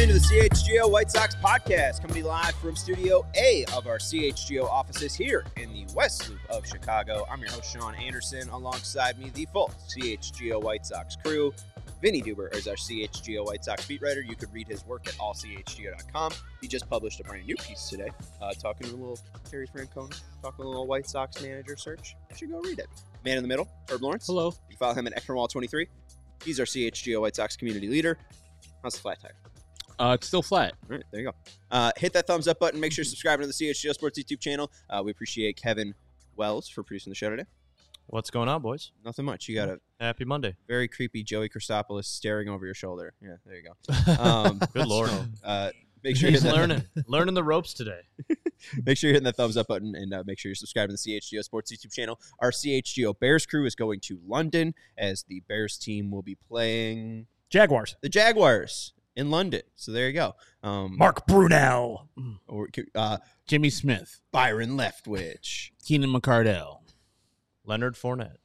into the CHGO White Sox podcast, coming to you live from Studio A of our CHGO offices here in the West Loop of Chicago. I'm your host, Sean Anderson. Alongside me, the full CHGO White Sox crew. Vinny Duber is our CHGO White Sox beat writer. You could read his work at allchgo.com. He just published a brand new piece today, talking a little Terry Francona, talking a little White Sox manager search. You should go read it. Man in the middle, Herb Lawrence. Hello. You follow him at Ekronwall23. He's our CHGO White Sox community leader. How's the flat tire? It's still flat. All right, there you go. Hit that thumbs up button. Make sure you're subscribing to the CHGO Sports YouTube channel. We appreciate Kevin Wells for producing the show today. What's going on, boys? Nothing much. You got a Happy Monday. very creepy Joey Christopoulos staring over your shoulder. Yeah, there you go. Good Lord. Make sure He's you're learning the ropes today. Make sure you're hitting that thumbs up button and make sure you're subscribing to the CHGO Sports YouTube channel. Our CHGO Bears crew is going to London as the Bears team will be playing Jaguars. the Jaguars in London. So there you go. Mark Brunell. Or, Jimmy Smith, Byron Leftwich, Keenan McCardell. Leonard Fournette.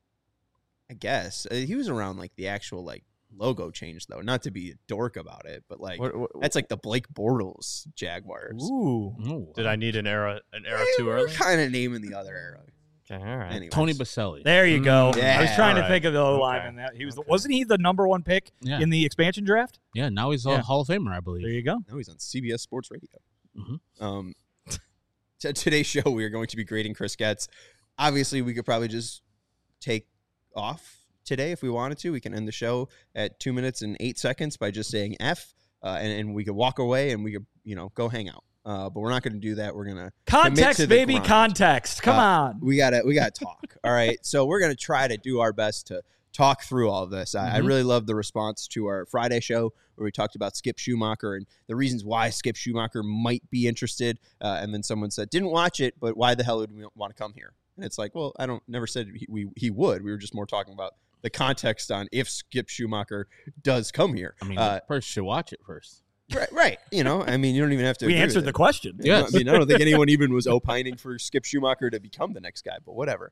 I guess. He was around like the actual like logo change though. Not to be a dork about it, but like that's like the Blake Bortles Jaguars. Ooh. Did I need an era too We're early? kind of naming the other era. Okay, all right. Anyways. Tony Baselli. There you go. Yeah. I was trying to All right. think of the O-line Okay. in that. He was wasn't he the number one pick Yeah. in the expansion draft? Yeah, now he's a Yeah. Hall of Famer, I There believe. you go. No, he's on CBS Sports Radio. Mhm. Today's show, we are going to be grading Chris Getz. Obviously, we could probably just take off today if we wanted to. We can end the show at 2 minutes and 8 seconds by just saying F, and we could walk away and we could, go hang out. But we're not going to do that. We're going to Context, baby, grind. context. Come on. We gotta talk. All right. So we're gonna try to do our best to talk through all of this. I really love the response to our Friday show where we talked about Skip Schumacher and the reasons why Skip Schumacher might be interested. And then someone said, didn't watch it, but why the hell would we want to come here? And it's like, well, never said he would. We were just more talking about the context on if Skip Schumacher does come here. I mean, first should watch it first. Right. You don't even have to. We agree answered with the it. question. Yes. I don't think anyone even was opining for Skip Schumacher to become the next guy, but whatever.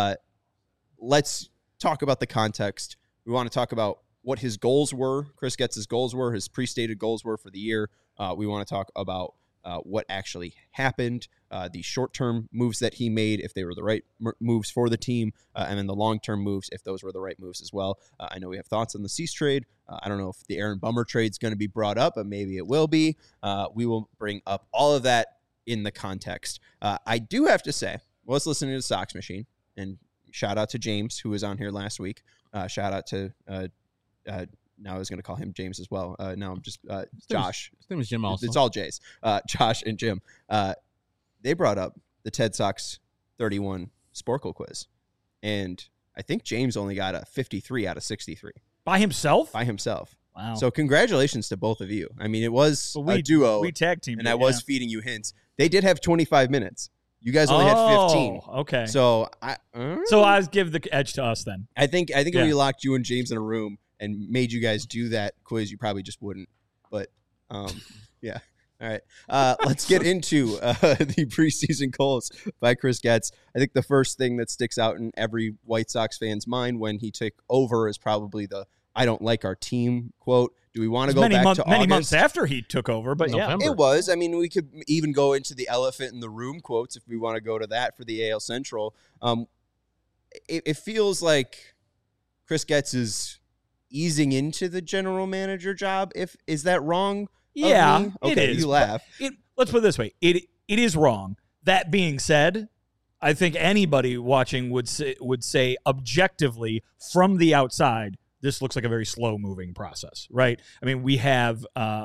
Let's talk about the context. We want to talk about what his goals were, Chris Getz's goals were, his pre-stated goals were for the year. We want to talk about what actually happened, the short-term moves that he made, if they were the right moves for the team, and then the long-term moves, if those were the right moves as well. I know we have thoughts on the Cease trade. I don't know if the Aaron Bummer trade is going to be brought up, but maybe it will be. We will bring up all of that in the context. I do have to say, was listening to the Sox Machine, and shout out to James, who was on here last week. Shout out to, now I was going to call him James as well. Now I'm just Josh. His name is Jim also. It's all J's. Josh and Jim. They brought up the Ted Sox 31 Sporkle quiz. And I think James only got a 53 out of 63 By himself? by himself. Wow. So congratulations to both of you. I mean, it was a duo, We tag teamed. and I was feeding you hints. They did have 25 minutes. You guys only had 15. Okay. So So I give the edge to us then. I think if Yeah. we locked you and James in a room and made you guys do that quiz, you probably just wouldn't. But yeah. All right. Let's get into the preseason goals by Chris Getz. I think the first thing that sticks out in every White Sox fan's mind when he took over is probably the "I don't like our team" quote. Do we want to go back to many August? months after he took over, but November. It was. I mean, we could even go into the elephant in the room quotes if we want to go to that for the AL Central. It feels like Chris Getz is easing into the general manager job. Is that wrong? Yeah, of me? it Okay, is. you laugh. Let's put it this way: it is wrong. That being said, I think anybody watching would say objectively from the outside, this looks like a very slow-moving process, right? I mean, we have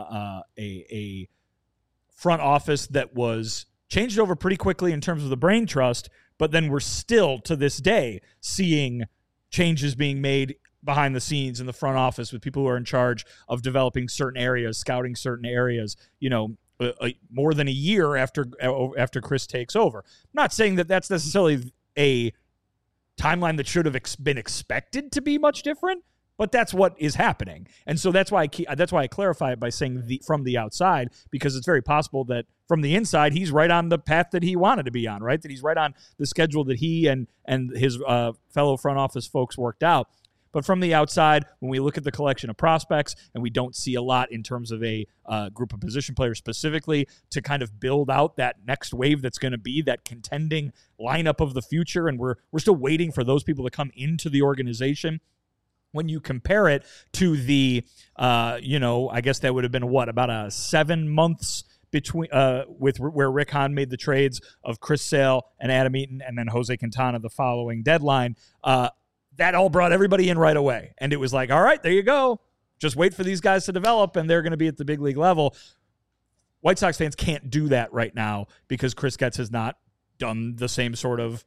a front office that was changed over pretty quickly in terms of the brain trust, but then we're still to this day seeing changes being made behind the scenes in the front office with people who are in charge of developing certain areas, scouting certain areas, more than a year after Chris takes over. I'm not saying that that's necessarily a timeline that should have been expected to be much different, but that's what is happening. And so that's why I clarify it by saying from the outside, because it's very possible that from the inside, he's right on the path that he wanted to be on, right? That he's right on the schedule that he and his fellow front office folks worked out. But from the outside, when we look at the collection of prospects and we don't see a lot in terms of a group of position players specifically to kind of build out that next wave that's going to be that contending lineup of the future, and we're still waiting for those people to come into the organization. When you compare it to the, I guess that would have been about 7 months between with where Rick Hahn made the trades of Chris Sale and Adam Eaton and then Jose Quintana the following deadline. That all brought everybody in right away. And it was like, all right, there you go. Just wait for these guys to develop and they're going to be at the big league level. White Sox fans can't do that right now because Chris Getz has not done the same sort of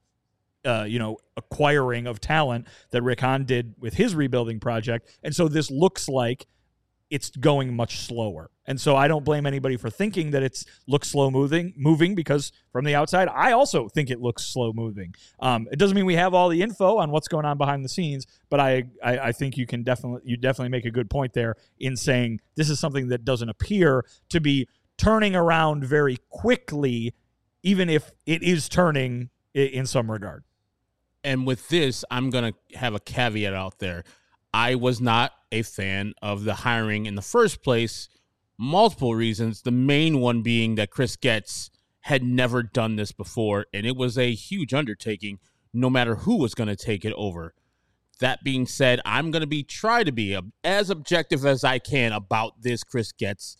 acquiring of talent that Rick Hahn did with his rebuilding project. And so this looks like it's going much slower. And so I don't blame anybody for thinking that it looks slow moving because from the outside, I also think it looks slow moving. It doesn't mean we have all the info on what's going on behind the scenes, but I think you definitely make a good point there in saying this is something that doesn't appear to be turning around very quickly, even if it is turning in some regard. And with this, I'm going to have a caveat out there. I was not a fan of the hiring in the first place. Multiple reasons. The main one being that Chris Getz had never done this before, and it was a huge undertaking no matter who was going to take it over. That being said, I'm going to try to be as objective as I can about this Chris Getz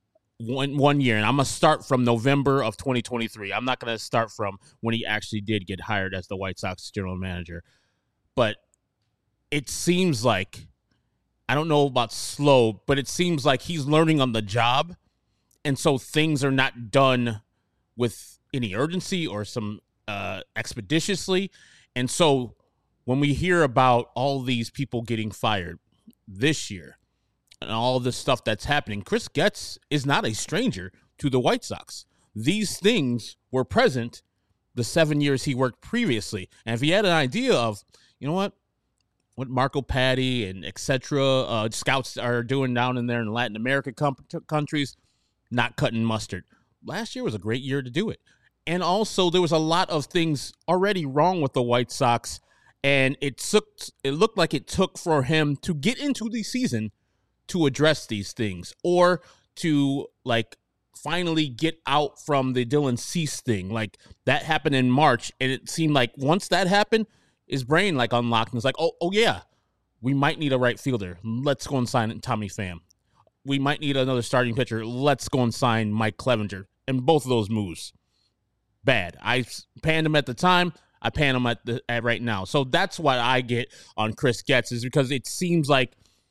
one year, and I'm going to start from November of 2023. I'm not going to start from when he actually did get hired as the White Sox general manager. But it seems like, I don't know about slow, but it seems like he's learning on the job, and so things are not done with any urgency or some expeditiously. And so when we hear about all these people getting fired this year, and all this stuff that's happening, Chris Getz is not a stranger to the White Sox. These things were present the 7 years he worked previously. And if he had an idea of, you know what Marco Patti and etc. Scouts are doing down in there in Latin America countries, not cutting mustard. Last year was a great year to do it. And also there was a lot of things already wrong with the White Sox. And it looked like it took for him to get into the season to address these things, or to finally get out from the Dylan Cease thing. Like that happened in March, and it seemed like once that happened, his brain unlocked and was like, oh yeah, we might need a right fielder. Let's go and sign Tommy Pham. We might need another starting pitcher. Let's go and sign Mike Clevenger. And both of those moves, bad. I panned him at the time. I pan him at right now. So that's what I get on Chris Getz, is because it seems like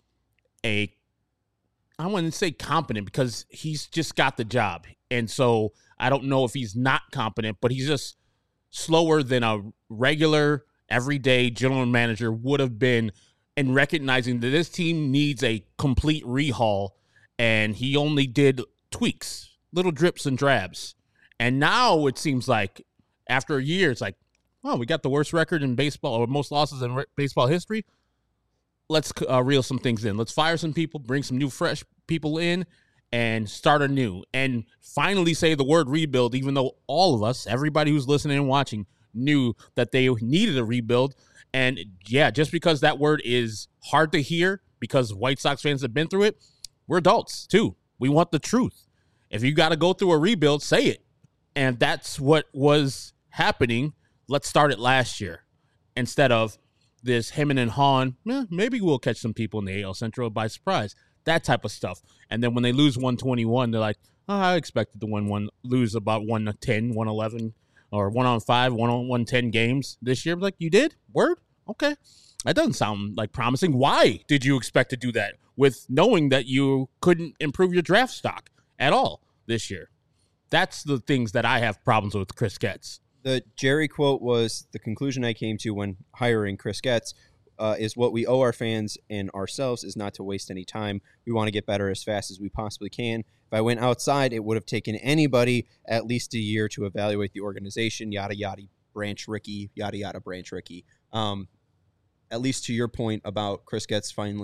I wouldn't say competent, because he's just got the job. And so I don't know if he's not competent, but he's just slower than a regular, everyday general manager would have been in recognizing that this team needs a complete rehaul. And he only did tweaks, little drips and drabs. And now it seems like after a year, it's like, oh, we got the worst record in baseball, or most losses in baseball history. Let's reel some things in. Let's fire some people, bring some new, fresh people in, and start anew. And finally say the word rebuild, even though all of us, everybody who's listening and watching, knew that they needed a rebuild. And yeah, just because that word is hard to hear because White Sox fans have been through it, we're adults too. We want the truth. If you got to go through a rebuild, say it. And that's what was happening. Let's start it last year instead of this Heyman and Hahn, maybe we'll catch some people in the AL Central by surprise. That type of stuff. And then when they lose 121, they're like, oh, I expected to lose about 110, 111, or 1-on-5, 1-on-110 games this year. Like, you did? Word? Okay. That doesn't sound like promising. Why did you expect to do that with knowing that you couldn't improve your draft stock at all this year? That's the things that I have problems with Chris Getz. The Jerry quote was the conclusion I came to when hiring Chris Getz is what we owe our fans and ourselves is not to waste any time. We want to get better as fast as we possibly can. If I went outside, it would have taken anybody at least a year to evaluate the organization, yada, yada, Branch Rickey, yada, yada, Branch Rickey. At least to your point about Chris Getz finally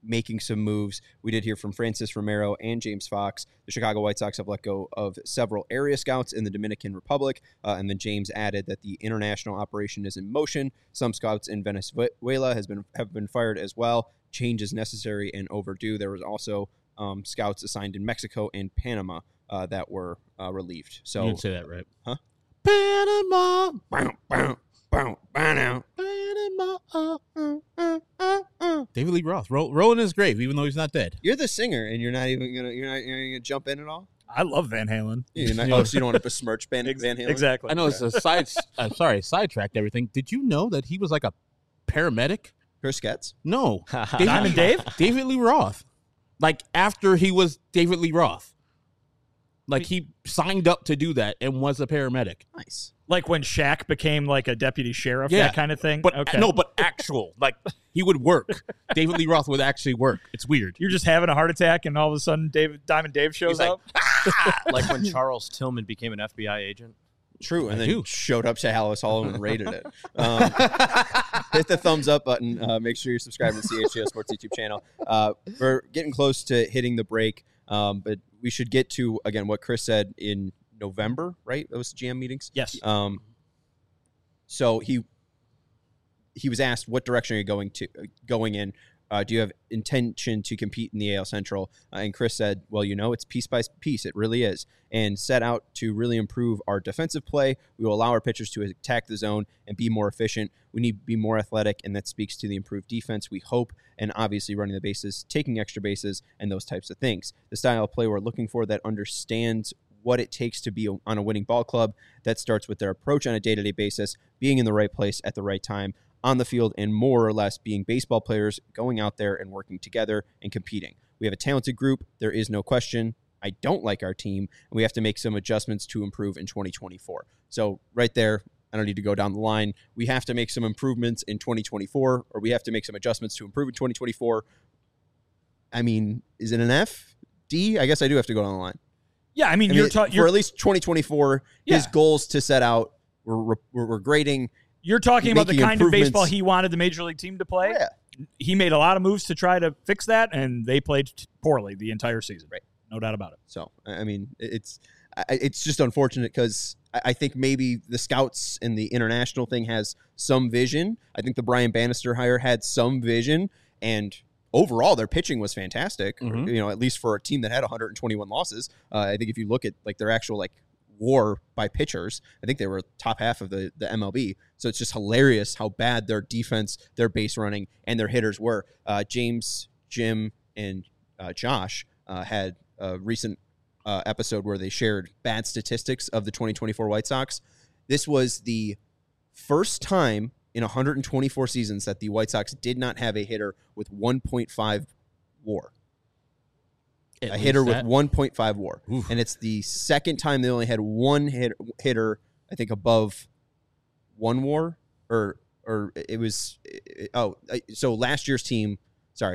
making some moves. We did hear from Francis Romero and James Fox. The Chicago White Sox have let go of several area scouts in the Dominican Republic, and then James added that the international operation is in motion. Some scouts in Venezuela have been fired as well. Change is necessary and overdue. There was also scouts assigned in Mexico and Panama that were relieved. So You didn't say that right. Huh? Panama. Panama. David Lee Roth rolling his grave, even though he's not dead. You're the singer, and you're not gonna jump in at all. I love Van Halen. You're not, so you don't want to besmirch Van Halen. Exactly. I know it's a sidetracked everything. Did you know that he was like a paramedic? Chris Getz. No, Diamond Dave? David Lee Roth. Like after he was David Lee Roth. Like he signed up to do that and was a paramedic. Nice. Like when Shaq became like a deputy sheriff, Yeah. that kind of thing? But okay. no, but actual. Like he would work. David Lee Roth would actually work. It's weird. You're just having a heart attack and all of a sudden Diamond Dave shows He's like, up? Like when Charles Tillman became an FBI agent. True, and I then do. showed up to Hallis Hall and rated it. Hit the thumbs up button. Make sure you're subscribed to the CHGO Sports YouTube channel. We're getting close to hitting the break, but we should get to, again, what Chris said in November, right? That was the GM meetings? Yes. So he was asked, what direction are you going in? Do you have intention to compete in the AL Central? And Chris said, well, it's piece by piece. It really is. And set out to really improve our defensive play. We will allow our pitchers to attack the zone and be more efficient. We need to be more athletic, and that speaks to the improved defense, we hope, and obviously running the bases, taking extra bases, and those types of things. The style of play we're looking for that understands what it takes to be on a winning ball club. That starts with their approach on a day-to-day basis, being in the right place at the right time, on the field, and more or less being baseball players, going out there and working together and competing. We have a talented group. There is no question. I don't like our team, and we have to make some adjustments to improve in 2024. So right there, I don't need to go down the line. We have to make some improvements in 2024, or we have to make some adjustments to improve in 2024. I mean, is it an F? D? I guess I do have to go down the line. Yeah, I mean, for at least 2024, his Yeah. goals to set out, we're grading. You're talking about the making kind of baseball improvements. he wanted the major league team to play. Yeah. He made a lot of moves to try to fix that, and they played poorly the entire season. Right. No doubt about it. So, I mean, it's just unfortunate because I think maybe the scouts and the international thing has some vision. I think the Brian Bannister hire had some vision, and overall their pitching was fantastic, Mhm. at least for a team that had 121 losses. I think if you look at like their actual WAR by pitchers, I think they were top half of the MLB. So it's just hilarious how bad their defense, their base running, and their hitters were. James, Jim, and Josh had a recent episode where they shared bad statistics of the 2024 White Sox. This was the first time in 124 seasons that the White Sox did not have a hitter with 1.5 WAR. A hitter with 1.5 WAR. Oof. And it's the second time they only had one hitter, I think, above 1 WAR. Or it was so last year's team in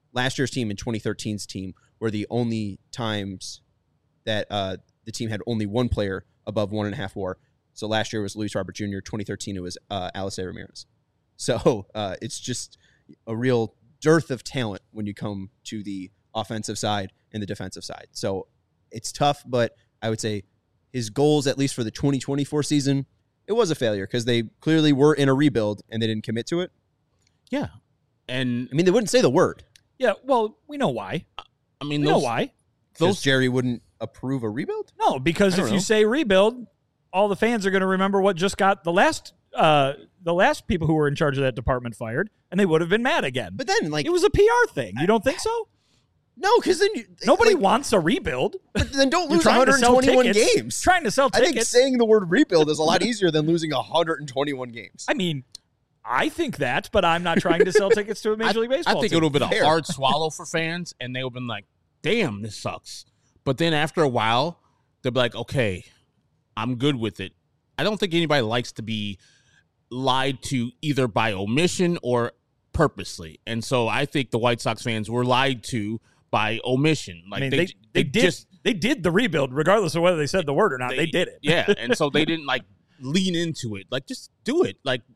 2013's team were the only times that the team had only one player above 1.5 WAR. So last year was Luis Robert Jr. 2013 it was Alice Ramirez. So it's just a real dearth of talent when you come to the offensive side and the defensive side. So it's tough, but I would say his goals, at least for the 2024 season, it was a failure because they clearly were in a rebuild and they didn't commit to it. Yeah. And I mean, they wouldn't say the word. Yeah, well, we know why. I mean, We know why. Because Jerry wouldn't approve a rebuild? No, because I don't if you know. say rebuild, all the fans are going to remember what just got the last people who were in charge of that department fired, and they would have been mad again. But then, It was a PR thing. You don't think so? no, because then Nobody wants a rebuild. But then don't You're lose trying to sell 121 tickets. games. Trying to sell I think tickets. saying the word rebuild is a lot easier than losing 121 games. I mean, I think that, but I'm not trying to sell tickets to a Major League Baseball I think team. it would have been Fair. a hard swallow for fans, and they would have been like, damn, this sucks. But then after a while, they'll be like, okay, I'm good with it. I don't think anybody likes to be lied to either by omission or purposely. And so I think the White Sox fans were lied to by omission. Like I mean, they did the rebuild, regardless of whether they said the word or not. They did it. Yeah. And so they didn't like lean into it. Like, just do it. Like,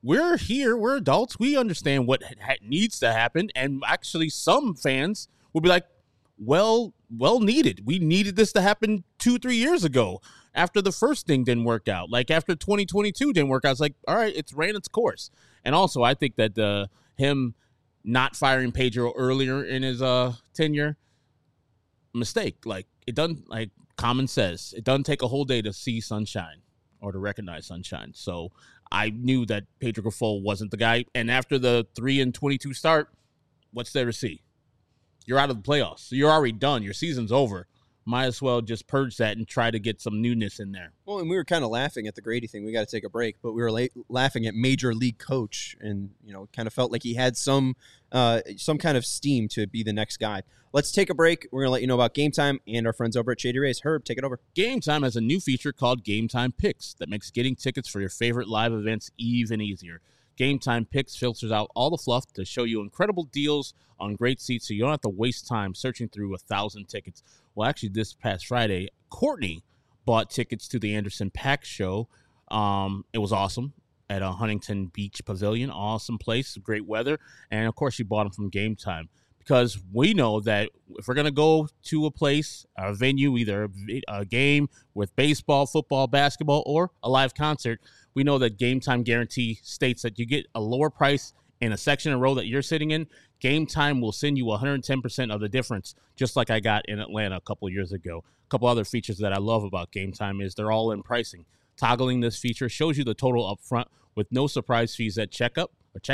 we're here, we're adults, we understand what needs to happen, and actually some fans will be like, well needed. We needed this to happen 2-3 years ago after the first thing didn't work out. Like after 2022 didn't work out, it's like, all right, it's ran its course. And also I think that him not firing Pedro earlier in his tenure, mistake. Like it doesn't, like Common says, it doesn't take a whole day to see sunshine or to recognize sunshine. So I knew that Pedro Grifol wasn't the guy. And after the 3-22 start, what's there to see? You're out of the playoffs. So you're already done. Your season's over. Might as well just purge that and try to get some newness in there. Well, and we were kind of laughing at the Grady thing. We got to take a break, but we were laughing at Major League coach, and kind of felt like he had some kind of steam to be the next guy. Let's take a break. We're gonna let you know about Game Time and our friends over at Shady Rays. Herb, take it over. Game Time has a new feature called Game Time Picks that makes getting tickets for your favorite live events even easier. Game Time Picks filters out all the fluff to show you incredible deals on great seats so you don't have to waste time searching through 1,000 tickets. Well, actually, this past Friday, Courtney bought tickets to the Anderson .Paak show. It was awesome at a Huntington Beach Pavilion. Awesome place, great weather. And, of course, she bought them from Game Time because we know that if we're going to go to a place, a venue, either a game with baseball, football, basketball, or a live concert, we know that Game Time guarantee states that you get a lower price in a section and row that you're sitting in. Game Time will send you 110% of the difference, just like I got in Atlanta a couple of years ago. A couple other features that I love about Game Time is they're all in pricing. Toggling this feature shows you the total up front with no surprise fees at checkout.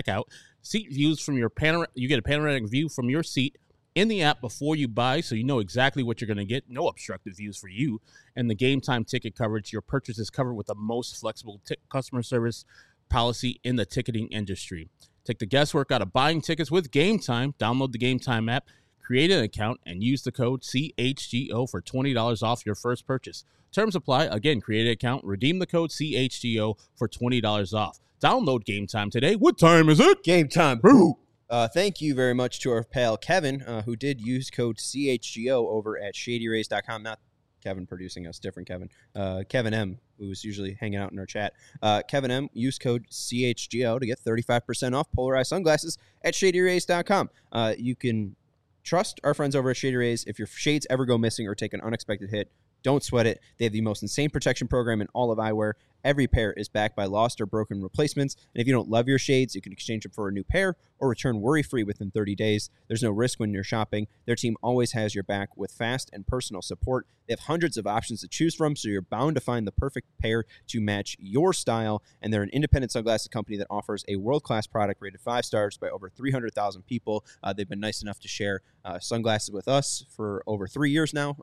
Seat views from your you get a panoramic view from your seat in the app before you buy, so you know exactly what you're going to get. No obstructed views for you. And the Game Time ticket coverage, your purchase is covered with the most flexible customer service policy in the ticketing industry. Take the guesswork out of buying tickets with Game Time. Download the Game Time app, create an account, and use the code CHGO for $20 off your first purchase. Terms apply. Again, create an account, redeem the code CHGO for $20 off. Download Game Time today. What time is it? Game time. Boo! Thank you very much to our pal Kevin, who did use code CHGO over at ShadyRays.com. Not Kevin producing us, different Kevin. Kevin M, who's usually hanging out in our chat. Kevin M, use code CHGO to get 35% off polarized sunglasses at ShadyRays.com. You can trust our friends over at Shady Rays. If your shades ever go missing or take an unexpected hit, don't sweat it. They have the most insane protection program in all of eyewear. Every pair is backed by lost or broken replacements. And if you don't love your shades, you can exchange them for a new pair or return worry-free within 30 days. There's no risk when you're shopping. Their team always has your back with fast and personal support. They have hundreds of options to choose from, so you're bound to find the perfect pair to match your style. And they're an independent sunglasses company that offers a world-class product rated 5 stars by over 300,000 people. They've been nice enough to share sunglasses with us for over 3 years now.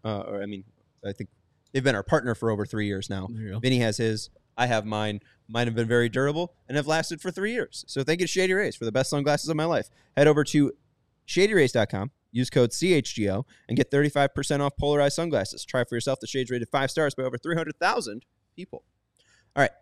I think they've been our partner for over 3 years now. Vinny has his. I have mine. Mine have been very durable and have lasted for 3 years. So thank you to Shady Rays for the best sunglasses of my life. Head over to ShadyRays.com, use code CHGO, and get 35% off polarized sunglasses. Try for yourself the shades rated 5 stars by over 300,000 people. All right.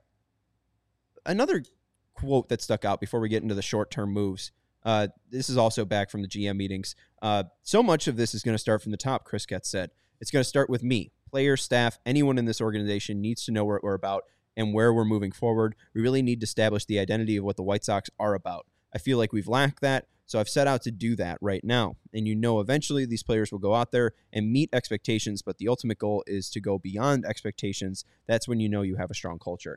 Another quote that stuck out before we get into the short-term moves. This is also back from the GM meetings. So much of this is going to start from the top, Chris Getz said. It's going to start with me. Players, staff, anyone in this organization needs to know what we're about and where we're moving forward. We really need to establish the identity of what the White Sox are about. I feel like we've lacked that, so I've set out to do that right now. And eventually these players will go out there and meet expectations, but the ultimate goal is to go beyond expectations. That's when you have a strong culture.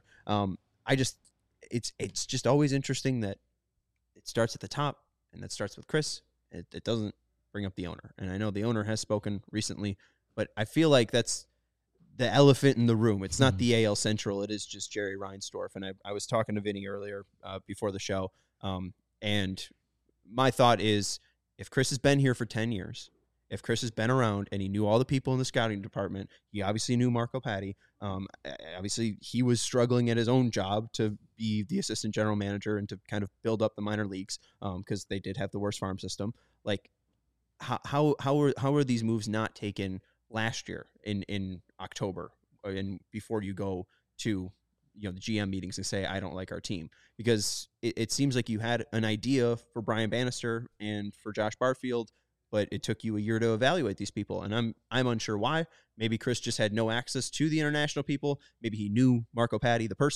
It's just always interesting that it starts at the top, and that starts with Chris. It doesn't bring up the owner. And I know the owner has spoken recently, but I feel like that's the elephant in the room. It's not the AL Central. It is just Jerry Reinsdorf. And I was talking to Vinny earlier before the show, and my thought is if Chris has been here for 10 years, if Chris has been around and he knew all the people in the scouting department, he obviously knew Marco Patti. Obviously, he was struggling at his own job to be the assistant general manager and to kind of build up the minor leagues because they did have the worst farm system. Like, how are these moves not taken last year in October and before you go to the GM meetings and say I don't like our team? Because it seems like you had an idea for Brian Bannister and for Josh Barfield, but it took you a year to evaluate these people, and I'm unsure why. Maybe Chris just had no access to the international people. Maybe he knew Marco Patti, the person,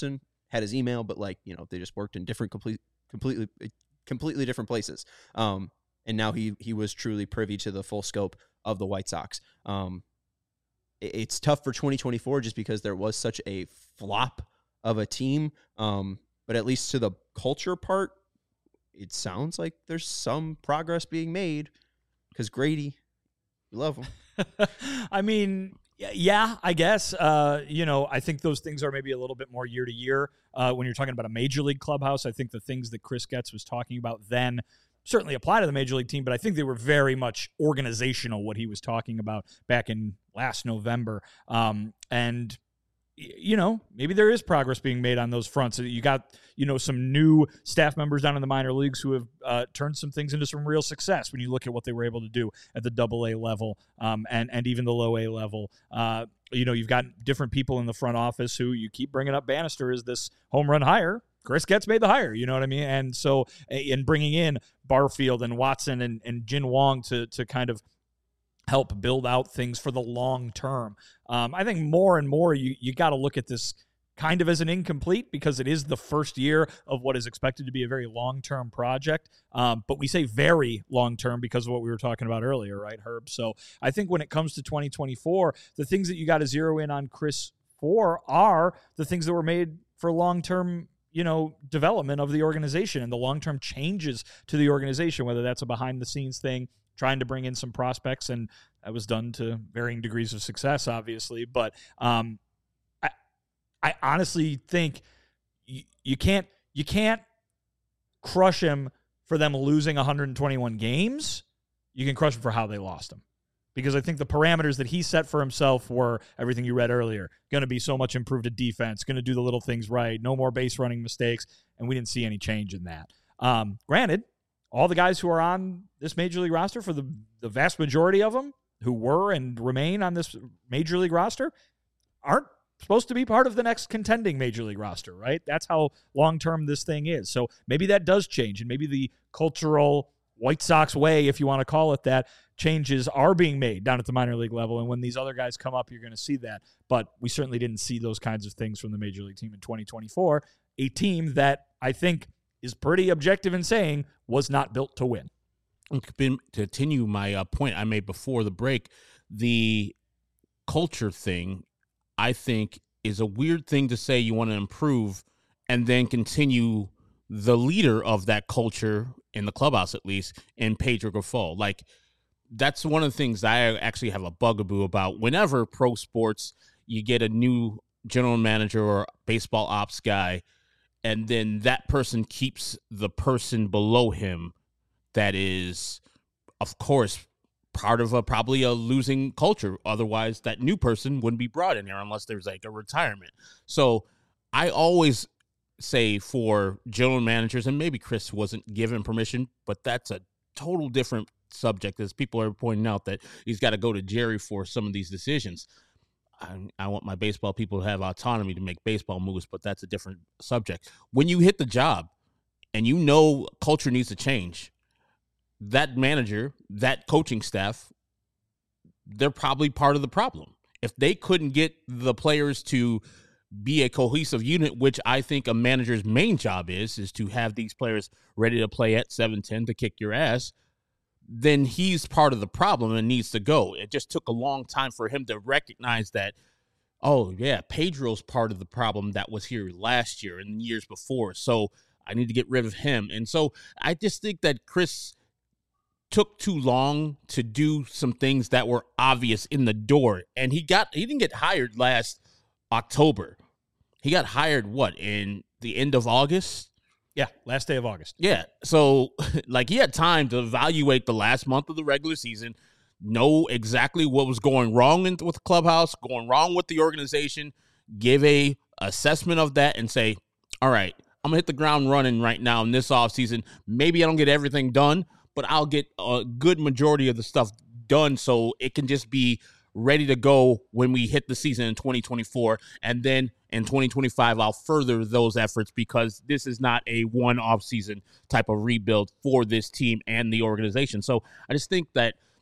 had his email, but like, you know, they just worked in completely different places. And now he was truly privy to the full scope of the White Sox. It's tough for 2024 just because there was such a flop of a team. But at least to the culture part, it sounds like there's some progress being made because Grady, we love him. I mean, yeah, I guess. You know, I think those things are maybe a little bit more year to year. When you're talking about a major league clubhouse, I think the things that Chris Getz was talking about then certainly apply to the major league team, but I think they were very much organizational, what he was talking about back in last November. And, you know, maybe there is progress being made on those fronts. You got, you know, some new staff members down in the minor leagues who have turned some things into some real success when you look at what they were able to do at the AA level and even the low A level. You know, you've got different people in the front office who you keep bringing up. Bannister is this home run hire. Chris Getz made the hire, you know what I mean? And so in bringing in Barfield and Watson and Jin Wong to kind of help build out things for the long term. I think more and more you got to look at this kind of as an incomplete because it is the first year of what is expected to be a very long-term project. But we say very long-term because of what we were talking about earlier, right, Herb? So I think when it comes to 2024, the things that you got to zero in on Chris for are the things that were made for long-term, you know, development of the organization and the long-term changes to the organization, whether that's a behind-the-scenes thing, trying to bring in some prospects, and that was done to varying degrees of success, obviously. But I honestly think you can't crush him for them losing 121 games. You can crush him for how they lost him. Because I think the parameters that he set for himself were everything you read earlier. Going to be so much improved at defense, going to do the little things right, no more base running mistakes, and we didn't see any change in that. Granted, all the guys who are on this major league roster, for the vast majority of them who were and remain on this major league roster, aren't supposed to be part of the next contending major league roster, right? That's how long-term this thing is. So maybe that does change, and maybe the cultural White Sox way, if you want to call it that, changes are being made down at the minor league level. And when these other guys come up, you're going to see that. But we certainly didn't see those kinds of things from the major league team in 2024, a team that I think is pretty objective in saying was not built to win. To continue my point I made before the break, the culture thing, I think, is a weird thing to say you want to improve and then continue the leader of that culture, in the clubhouse at least, in Pedro Grifol. Like, that's one of the things that I actually have a bugaboo about. Whenever pro sports, you get a new general manager or baseball ops guy, and then that person keeps the person below him that is, of course, part of probably a losing culture. Otherwise, that new person wouldn't be brought in here unless there's like a retirement. So I always say for general managers, and maybe Chris wasn't given permission, but that's a total different subject, as people are pointing out that he's got to go to Jerry for some of these decisions. I want my baseball people to have autonomy to make baseball moves, but that's a different subject. When you hit the job and you know culture needs to change, that manager, that coaching staff, they're probably part of the problem. If they couldn't get the players to be a cohesive unit, which I think a manager's main job is to have these players ready to play at 7-10 to kick your ass, then he's part of the problem and needs to go. It just took a long time for him to recognize that, oh, yeah, Pedro's part of the problem that was here last year and years before, so I need to get rid of him. And so I just think that Chris took too long to do some things that were obvious in the door. And he didn't get hired last October. He got hired, in the end of August? Yeah, last day of August. Yeah. So, he had time to evaluate the last month of the regular season, know exactly what was going wrong with the clubhouse, going wrong with the organization, give a assessment of that, and say, all right, I'm going to hit the ground running right now in this offseason. Maybe I don't get everything done, but I'll get a good majority of the stuff done so it can just be ready to go when we hit the season in 2024. And then in 2025, I'll further those efforts because this is not a one-off season type of rebuild for this team and the organization. So I just think that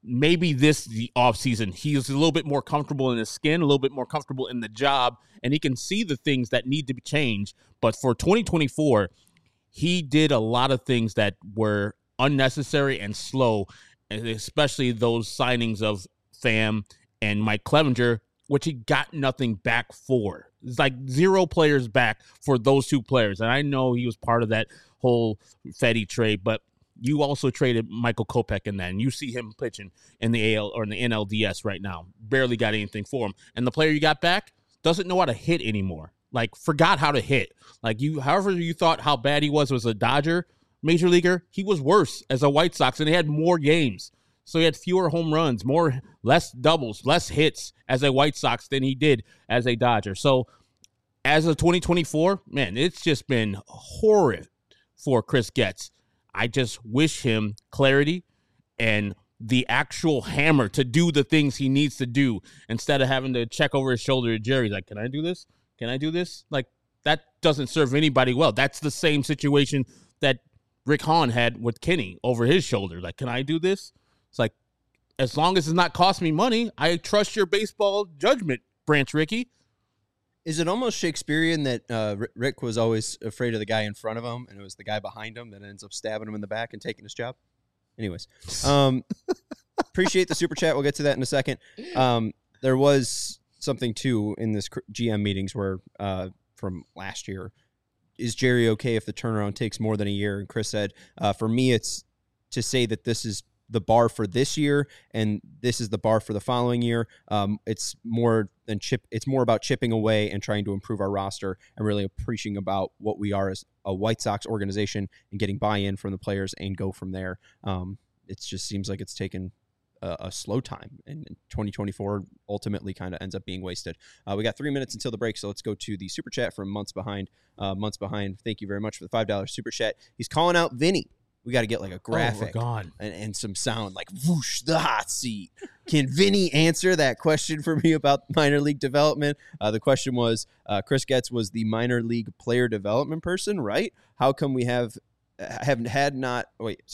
maybe the offseason, he's a little bit more comfortable in his skin, a little bit more comfortable in the job, and he can see the things that need to be changed. But for 2024, he did a lot of things that were unnecessary and slow, and especially those signings of Pham and Mike Clevenger, which he got nothing back for. It's like 0 players back for those 2 players. And I know he was part of that whole Fedde trade, but you also traded Michael Kopech in that, and you see him pitching in the AL or in the NLDS right now. Barely got anything for him. And the player you got back doesn't know how to hit anymore. Like, forgot how to hit. Like, however you thought how bad he was a Dodger major leaguer, he was worse as a White Sox, and he had more games. So he had fewer home runs, less doubles, less hits as a White Sox than he did as a Dodger. So as of 2024, man, it's just been horrid for Chris Getz. I just wish him clarity and the actual hammer to do the things he needs to do instead of having to check over his shoulder at Jerry. Like, can I do this? Can I do this? Like, that doesn't serve anybody well. That's the same situation that Rick Hahn had with Kenny over his shoulder. Like, can I do this? It's like, as long as it's not cost me money, I trust your baseball judgment, Branch Rickey. Is it almost Shakespearean that Rick was always afraid of the guy in front of him, and it was the guy behind him that ends up stabbing him in the back and taking his job? Anyways, appreciate the super chat. We'll get to that in a second. There was something, too, in this GM meetings where from last year, is Jerry okay if the turnaround takes more than a year? And Chris said, for me, it's to say that this is the bar for this year and this is the bar for the following year. It's more about chipping away and trying to improve our roster and really appreciating about what we are as a White Sox organization and getting buy-in from the players and go from there. It just seems like it's taken a slow time, and 2024 ultimately kind of ends up being wasted. We got 3 minutes until the break, so let's go to the super chat from Months Behind. Thank you very much for the $5 super chat. He's calling out Vinny. We got to get like a graphic and some sound like whoosh, the hot seat. Can Vinny answer that question for me about minor league development? The question was, Chris Getz was the minor league player development person, right? How come we have not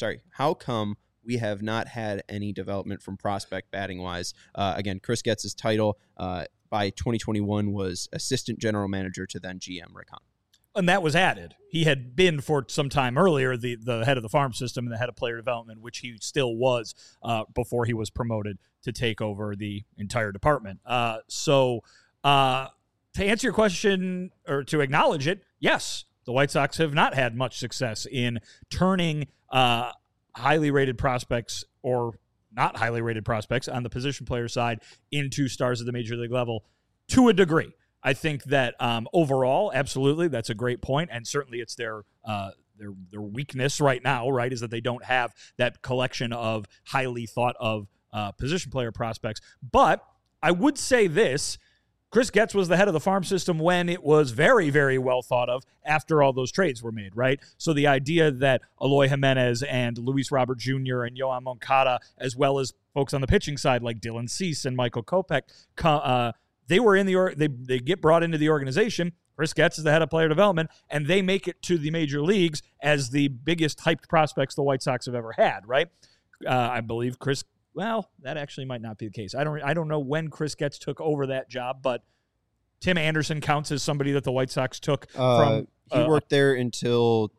had any development from prospect batting wise? Again, Chris Getz's title by 2021 was assistant general manager to then GM Rick Hahn. And that was added. He had been for some time earlier the head of the farm system and the head of player development, which he still was before he was promoted to take over the entire department. So to answer your question or to acknowledge it, yes, the White Sox have not had much success in turning highly rated prospects or not highly rated prospects on the position player side into stars at the major league level to a degree. I think that overall, absolutely, that's a great point, and certainly it's their weakness right now, right, is that they don't have that collection of highly thought of position player prospects. But I would say this: Chris Getz was the head of the farm system when it was very, very well thought of after all those trades were made, right? So the idea that Eloy Jimenez and Luis Robert Jr. and Yoan Moncada, as well as folks on the pitching side like Dylan Cease and Michael Kopech, they were in they get brought into the organization. Chris Getz is the head of player development, and they make it to the major leagues as the biggest hyped prospects the White Sox have ever had, right? I believe Chris. Well, that actually might not be the case. I don't know when Chris Getz took over that job, but Tim Anderson counts as somebody that the White Sox took from. He worked there until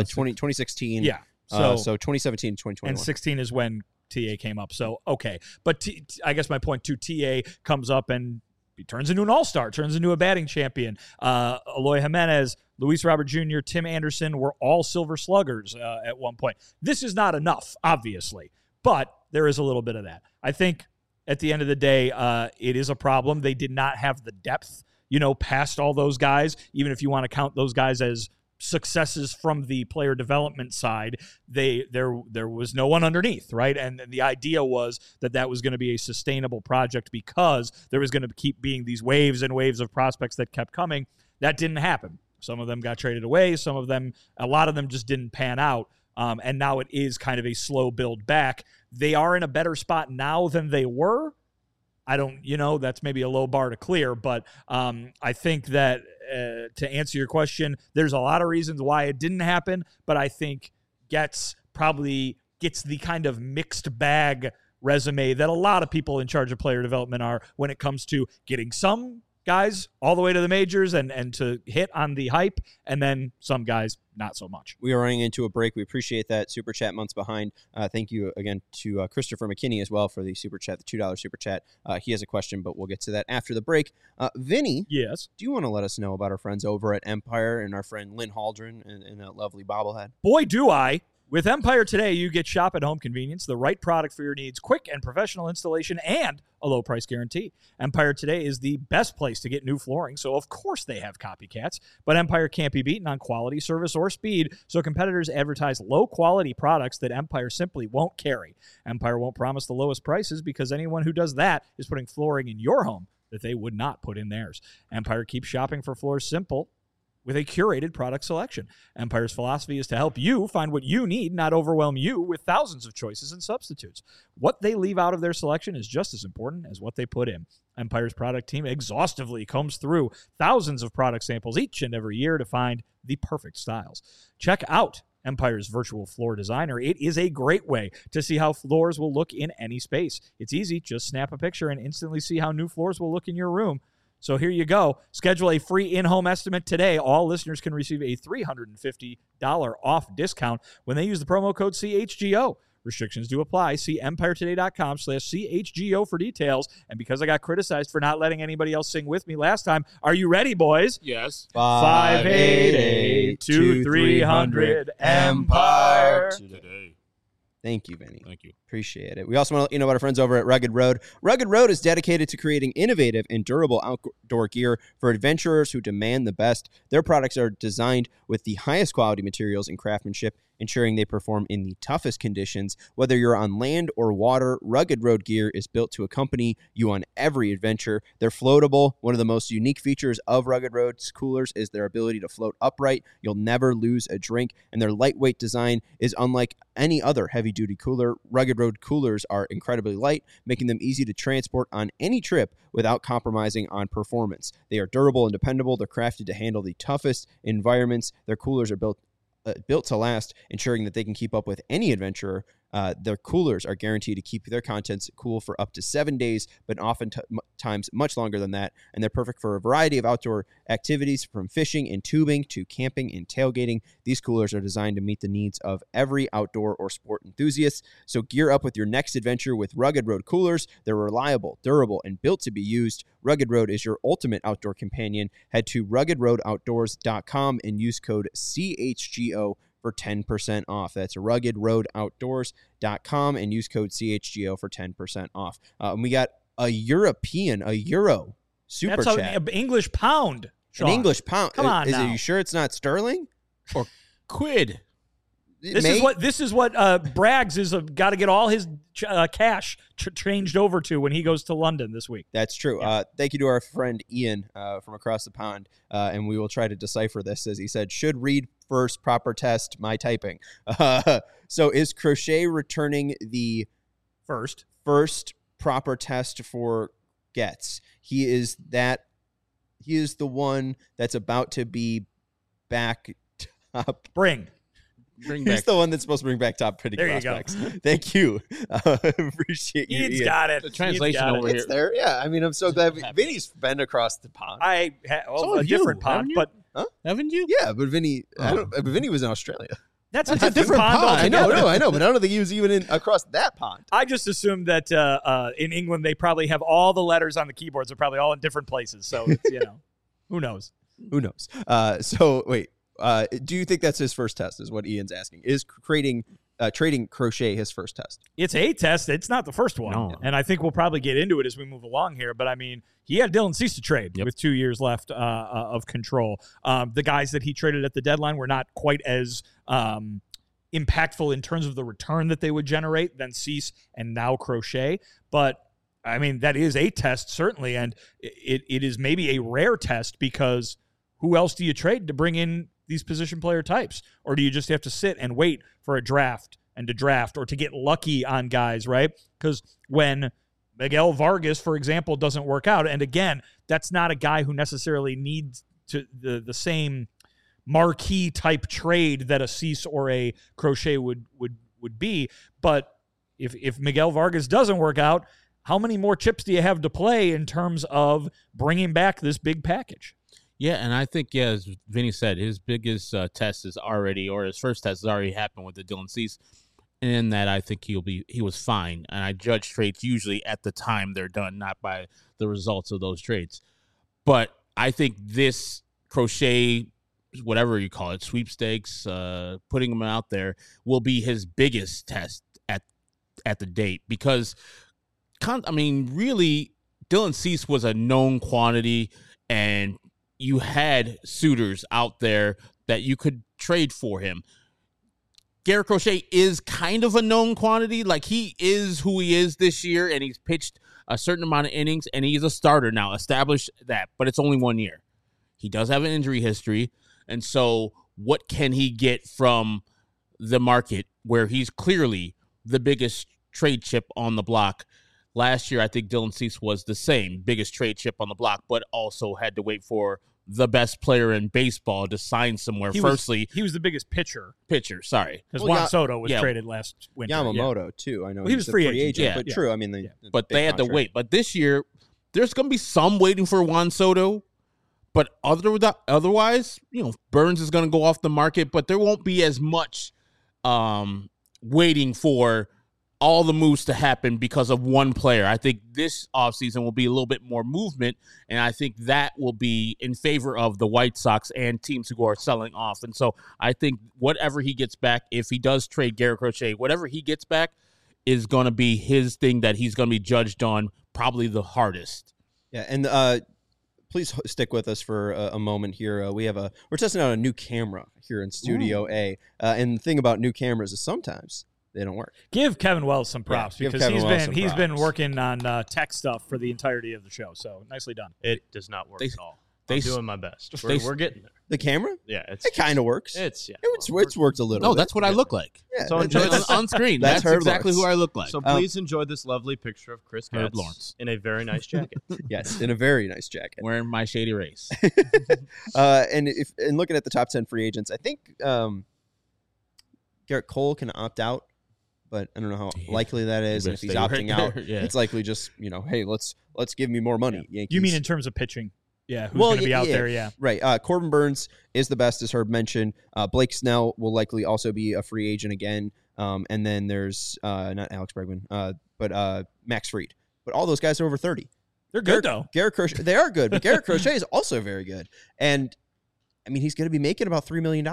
2016. Yeah. So 2017, 2021. And 16 is when TA came up. So, okay. But I guess my point to TA comes up and he turns into an all-star, turns into a batting champion. Eloy Jimenez, Luis Robert Jr., Tim Anderson were all silver sluggers at one point. This is not enough, obviously, but there is a little bit of that. I think at the end of the day, it is a problem. They did not have the depth, past all those guys, even if you want to count those guys as successes from the player development side. There was no one underneath, right? And the idea was that was going to be a sustainable project because there was going to keep being these waves and waves of prospects that kept coming. That didn't happen. Some of them got traded away. A lot of them just didn't pan out. And now it is kind of a slow build back. They are in a better spot now than they were. I don't, that's maybe a low bar to clear, but I think that to answer your question, there's a lot of reasons why it didn't happen, but I think Getz probably gets the kind of mixed bag resume that a lot of people in charge of player development are when it comes to getting some guys all the way to the majors and to hit on the hype, and then some guys not so much. We are running into a break. We appreciate that super chat months behind. Thank you again to Christopher McKinney as well for the super chat, the $2 super chat. He has a question, but we'll get to that after the break. Vinny, yes, do you want to let us know about our friends over at Empire and our friend Lynn Haldren and that lovely bobblehead? Boy, do I. With Empire today, you get shop at home convenience, the right product for your needs, quick and professional installation, and a low price guarantee. Empire today is the best place to get new flooring, so of course they have copycats. But Empire can't be beaten on quality, service, or speed, so competitors advertise low-quality products that Empire simply won't carry. Empire won't promise the lowest prices because anyone who does that is putting flooring in your home that they would not put in theirs. Empire keeps shopping for floors simple, with a curated product selection. Empire's philosophy is to help you find what you need, not overwhelm you with thousands of choices and substitutes. What they leave out of their selection is just as important as what they put in. Empire's product team exhaustively combs through thousands of product samples each and every year to find the perfect styles. Check out Empire's virtual floor designer. It is a great way to see how floors will look in any space. It's easy. Just snap a picture and instantly see how new floors will look in your room. So here you go. Schedule a free in-home estimate today. All listeners can receive a $350 off discount when they use the promo code CHGO. Restrictions do apply. See empiretoday.com/CHGO for details. And because I got criticized for not letting anybody else sing with me last time, are you ready, boys? Yes. 588-2300 Empire. Today. Thank you, Vinny. Thank you. Appreciate it. We also want to let you know about our friends over at Rugged Road. Rugged Road is dedicated to creating innovative and durable outdoor gear for adventurers who demand the best. Their products are designed with the highest quality materials and craftsmanship, ensuring they perform in the toughest conditions. Whether you're on land or water, Rugged Road gear is built to accompany you on every adventure. They're floatable. One of the most unique features of Rugged Road's coolers is their ability to float upright. You'll never lose a drink, and their lightweight design is unlike any other heavy-duty cooler. Rugged Road coolers are incredibly light, making them easy to transport on any trip without compromising on performance. They are durable and dependable. They're crafted to handle the toughest environments. Their coolers are built to last, ensuring that they can keep up with any adventurer. Their coolers are guaranteed to keep their contents cool for up to 7 days, but oftentimes much longer than that. And they're perfect for a variety of outdoor activities, from fishing and tubing to camping and tailgating. These coolers are designed to meet the needs of every outdoor or sport enthusiast. So gear up with your next adventure with Rugged Road coolers. They're reliable, durable, and built to be used. Rugged Road is your ultimate outdoor companion. Head to ruggedroadoutdoors.com and use code CHGO for 10% off. That's ruggedroadoutdoors.com and use code CHGO for 10% off. And we got a Euro super That's chat. an English pound. Sean. An English pound. Come on now. Are you sure it's not sterling? Or quid. This is what Braggs is got to get all his cash changed over to when he goes to London this week. That's true. Yeah. Thank you to our friend Ian from across the pond, and we will try to decipher this. As he said, should read first, proper test, my typing. So is Crochet returning the first proper test for Getz? He is the one that's about to be back top. He's the one that's supposed to bring back top pretty prospects. Thank you. Appreciate you. Ian's got it. The translation over here. It's there. Yeah, I mean, I'm so glad. Vinny's been across the pond. A different pond, but Haven't you? Yeah, but Vinny, Vinny was in Australia. that's a different pond I know, altogether. but I don't think he was even across that pond. I just assumed that in England they probably have all the letters on the keyboards are probably all in different places. So it's, who knows? Who knows? So wait. Do you think that's his first test? Is what Ian's asking. Is trading Crochet his first test? It's a test. It's not the first one. No. And I think we'll probably get into it as we move along here. But, I mean, he had Dylan Cease to trade with 2 years left of control. The guys that he traded at the deadline were not quite as impactful in terms of the return that they would generate than Cease and now Crochet. But, I mean, that is a test, certainly. And it is maybe a rare test because who else do you trade to bring in these position player types? Or do you just have to sit and wait for a draft and to draft or to get lucky on guys, right? Because when Miguel Vargas, for example, doesn't work out, and again, that's not a guy who necessarily needs to the same marquee type trade that a Cease or a Crochet would be, but if Miguel Vargas doesn't work out, how many more chips do you have to play in terms of bringing back this big package? Yeah, and I think, as Vinny said, his biggest test is already, or his first test has already happened with the Dylan Cease. And in that, I think he was fine. And I judge trades usually at the time they're done, not by the results of those trades. But I think this Crochet, whatever you call it, sweepstakes, putting him out there, will be his biggest test at the date. Because, really, Dylan Cease was a known quantity, and you had suitors out there that you could trade for him. Garrett Crochet is kind of a known quantity. Like, he is who he is this year, and he's pitched a certain amount of innings, and he's a starter now. Established that, but it's only 1 year. He does have an injury history, and so what can he get from the market where he's clearly the biggest trade chip on the block? Last year, I think Dylan Cease was the same, biggest trade chip on the block, but also had to wait for the best player in baseball to sign somewhere. He was the biggest pitcher. Sorry. Because Juan Soto was traded last winter. Yamamoto, too. I know he was a free agent. But true. I mean, but they had to wait. But this year, there's going to be some waiting for Juan Soto. But otherwise, Burns is going to go off the market, but there won't be as much waiting for all the moves to happen because of one player. I think this offseason will be a little bit more movement, and I think that will be in favor of the White Sox and teams who are selling off. And so I think whatever he gets back, if he does trade Garrett Crochet, whatever he gets back is going to be his thing that he's going to be judged on probably the hardest. Yeah, and please stick with us for a moment here. We're testing out a new camera here in Studio A, and the thing about new cameras is sometimes they don't work. Give Kevin Wells some props because he's been working on tech stuff for the entirety of the show. So nicely done. It does not work at all. I'm doing my best. We're getting there. The camera? Yeah, it kind of works. It's worked a little. No, bit. That's what I look like. Yeah, so enjoy this on screen. That's exactly who I look like. So please enjoy this lovely picture of Chris Herb Getz Lawrence in a very nice jacket. Yes, in a very nice jacket, wearing my Shady Rays. And looking at the top 10 free agents, I think Garrett Cole can opt out. But I don't know how likely that is. And if he's opting out, it's likely just, hey, let's give me more money. Yankees. You mean in terms of pitching? Yeah, who's going to be out there? Yeah. Right. Corbin Burns is the best, as Herb mentioned. Blake Snell will likely also be a free agent again. And then there's not Alex Bregman, but Max Fried. But all those guys are over 30. They're good, though. Garrett Crochet, they are good, but Garrett Crochet is also very good. And, he's going to be making about $3 million.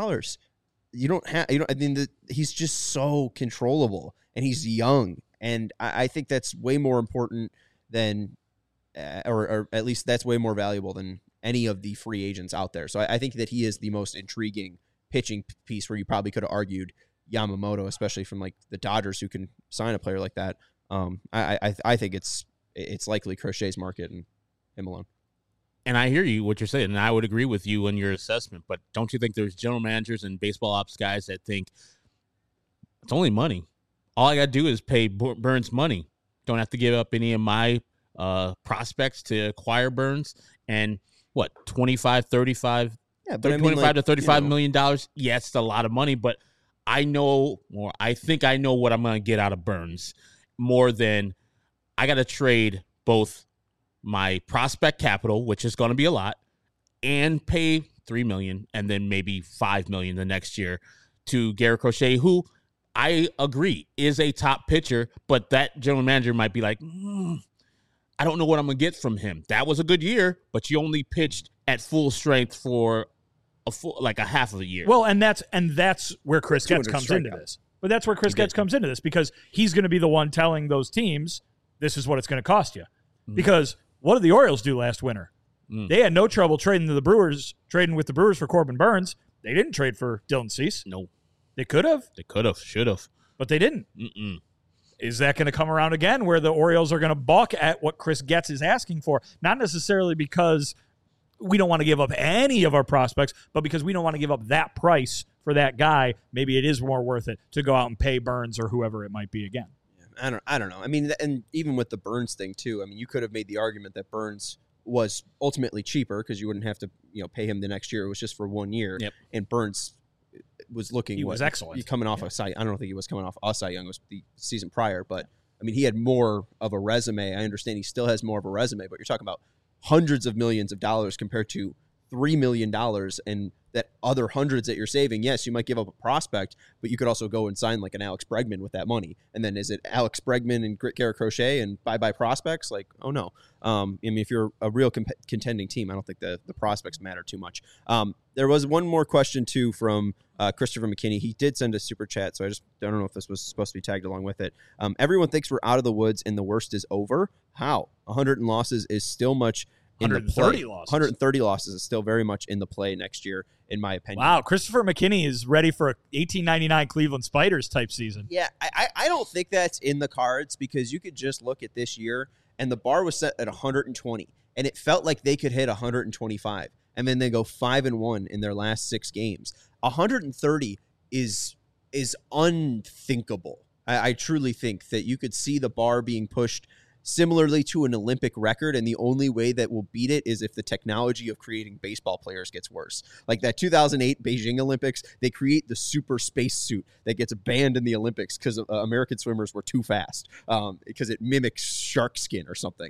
He's just so controllable, and he's young, and I think that's way more important than, or at least that's way more valuable than any of the free agents out there. So I think that he is the most intriguing pitching piece, where you probably could have argued Yamamoto, especially from like the Dodgers, who can sign a player like that. I think it's likely Crochet's market and him alone. And I hear you, what you're saying, and I would agree with you in your assessment, but don't you think there's general managers and baseball ops guys that think it's only money? All I got to do is pay Burns money. Don't have to give up any of my prospects to acquire Burns. And what, 25, 35? Yeah, but 25 to $35 million? Yeah, it's a lot of money, but I think I know what I'm going to get out of Burns more than I got to trade both my prospect capital, which is going to be a lot, and pay $3 million and then maybe $5 million the next year to Garrett Crochet, who I agree is a top pitcher, but that general manager might be like, I don't know what I'm going to get from him. That was a good year, but you only pitched at full strength for a half of a year. Well, and that's where Chris Getz comes into this. But that's where Chris Getz comes into this, because he's going to be the one telling those teams, this is what it's going to cost you. Because what did the Orioles do last winter? They had no trouble trading with the Brewers for Corbin Burns. They didn't trade for Dylan Cease. No. They could have. They could have, should have. But they didn't. Mm-mm. Is that going to come around again where the Orioles are going to balk at what Chris Getz is asking for? Not necessarily because we don't want to give up any of our prospects, but because we don't want to give up that price for that guy. Maybe it is more worth it to go out and pay Burns or whoever it might be again. I don't know. And even with the Burns thing too, you could have made the argument that Burns was ultimately cheaper because you wouldn't have to, pay him the next year. It was just for 1 year. Yep. And Burns was looking. He was excellent. Coming off a Cy. I don't think he was coming off a Cy Young. It was the season prior, but I mean, he had more of a resume. I understand he still has more of a resume, but you're talking about hundreds of millions of dollars compared to $3 million, and that other hundreds that you're saving. Yes, you might give up a prospect, but you could also go and sign like an Alex Bregman with that money. And then is it Alex Bregman and Garrett Crochet and bye prospects? Like, oh no. I mean, if you're a real contending team, I don't think the prospects matter too much. There was one more question too from Christopher McKinney. He did send a super chat, so I don't know if this was supposed to be tagged along with it. Everyone thinks we're out of the woods and the worst is over. How? 100 losses is still much. 130 losses. 130 losses is still very much in the play next year, in my opinion. Wow, Christopher McKinney is ready for a 1899 Cleveland Spiders type season. Yeah, I don't think that's in the cards because you could just look at this year, and the bar was set at 120, and it felt like they could hit 125, and then they go 5-1 in their last 6 games. 130 is unthinkable. I truly think that you could see the bar being pushed similarly to an Olympic record, and the only way that will beat it is if the technology of creating baseball players gets worse. Like that 2008 Beijing Olympics, they create the super space suit that gets banned in the Olympics because American swimmers were too fast because it mimics shark skin or something.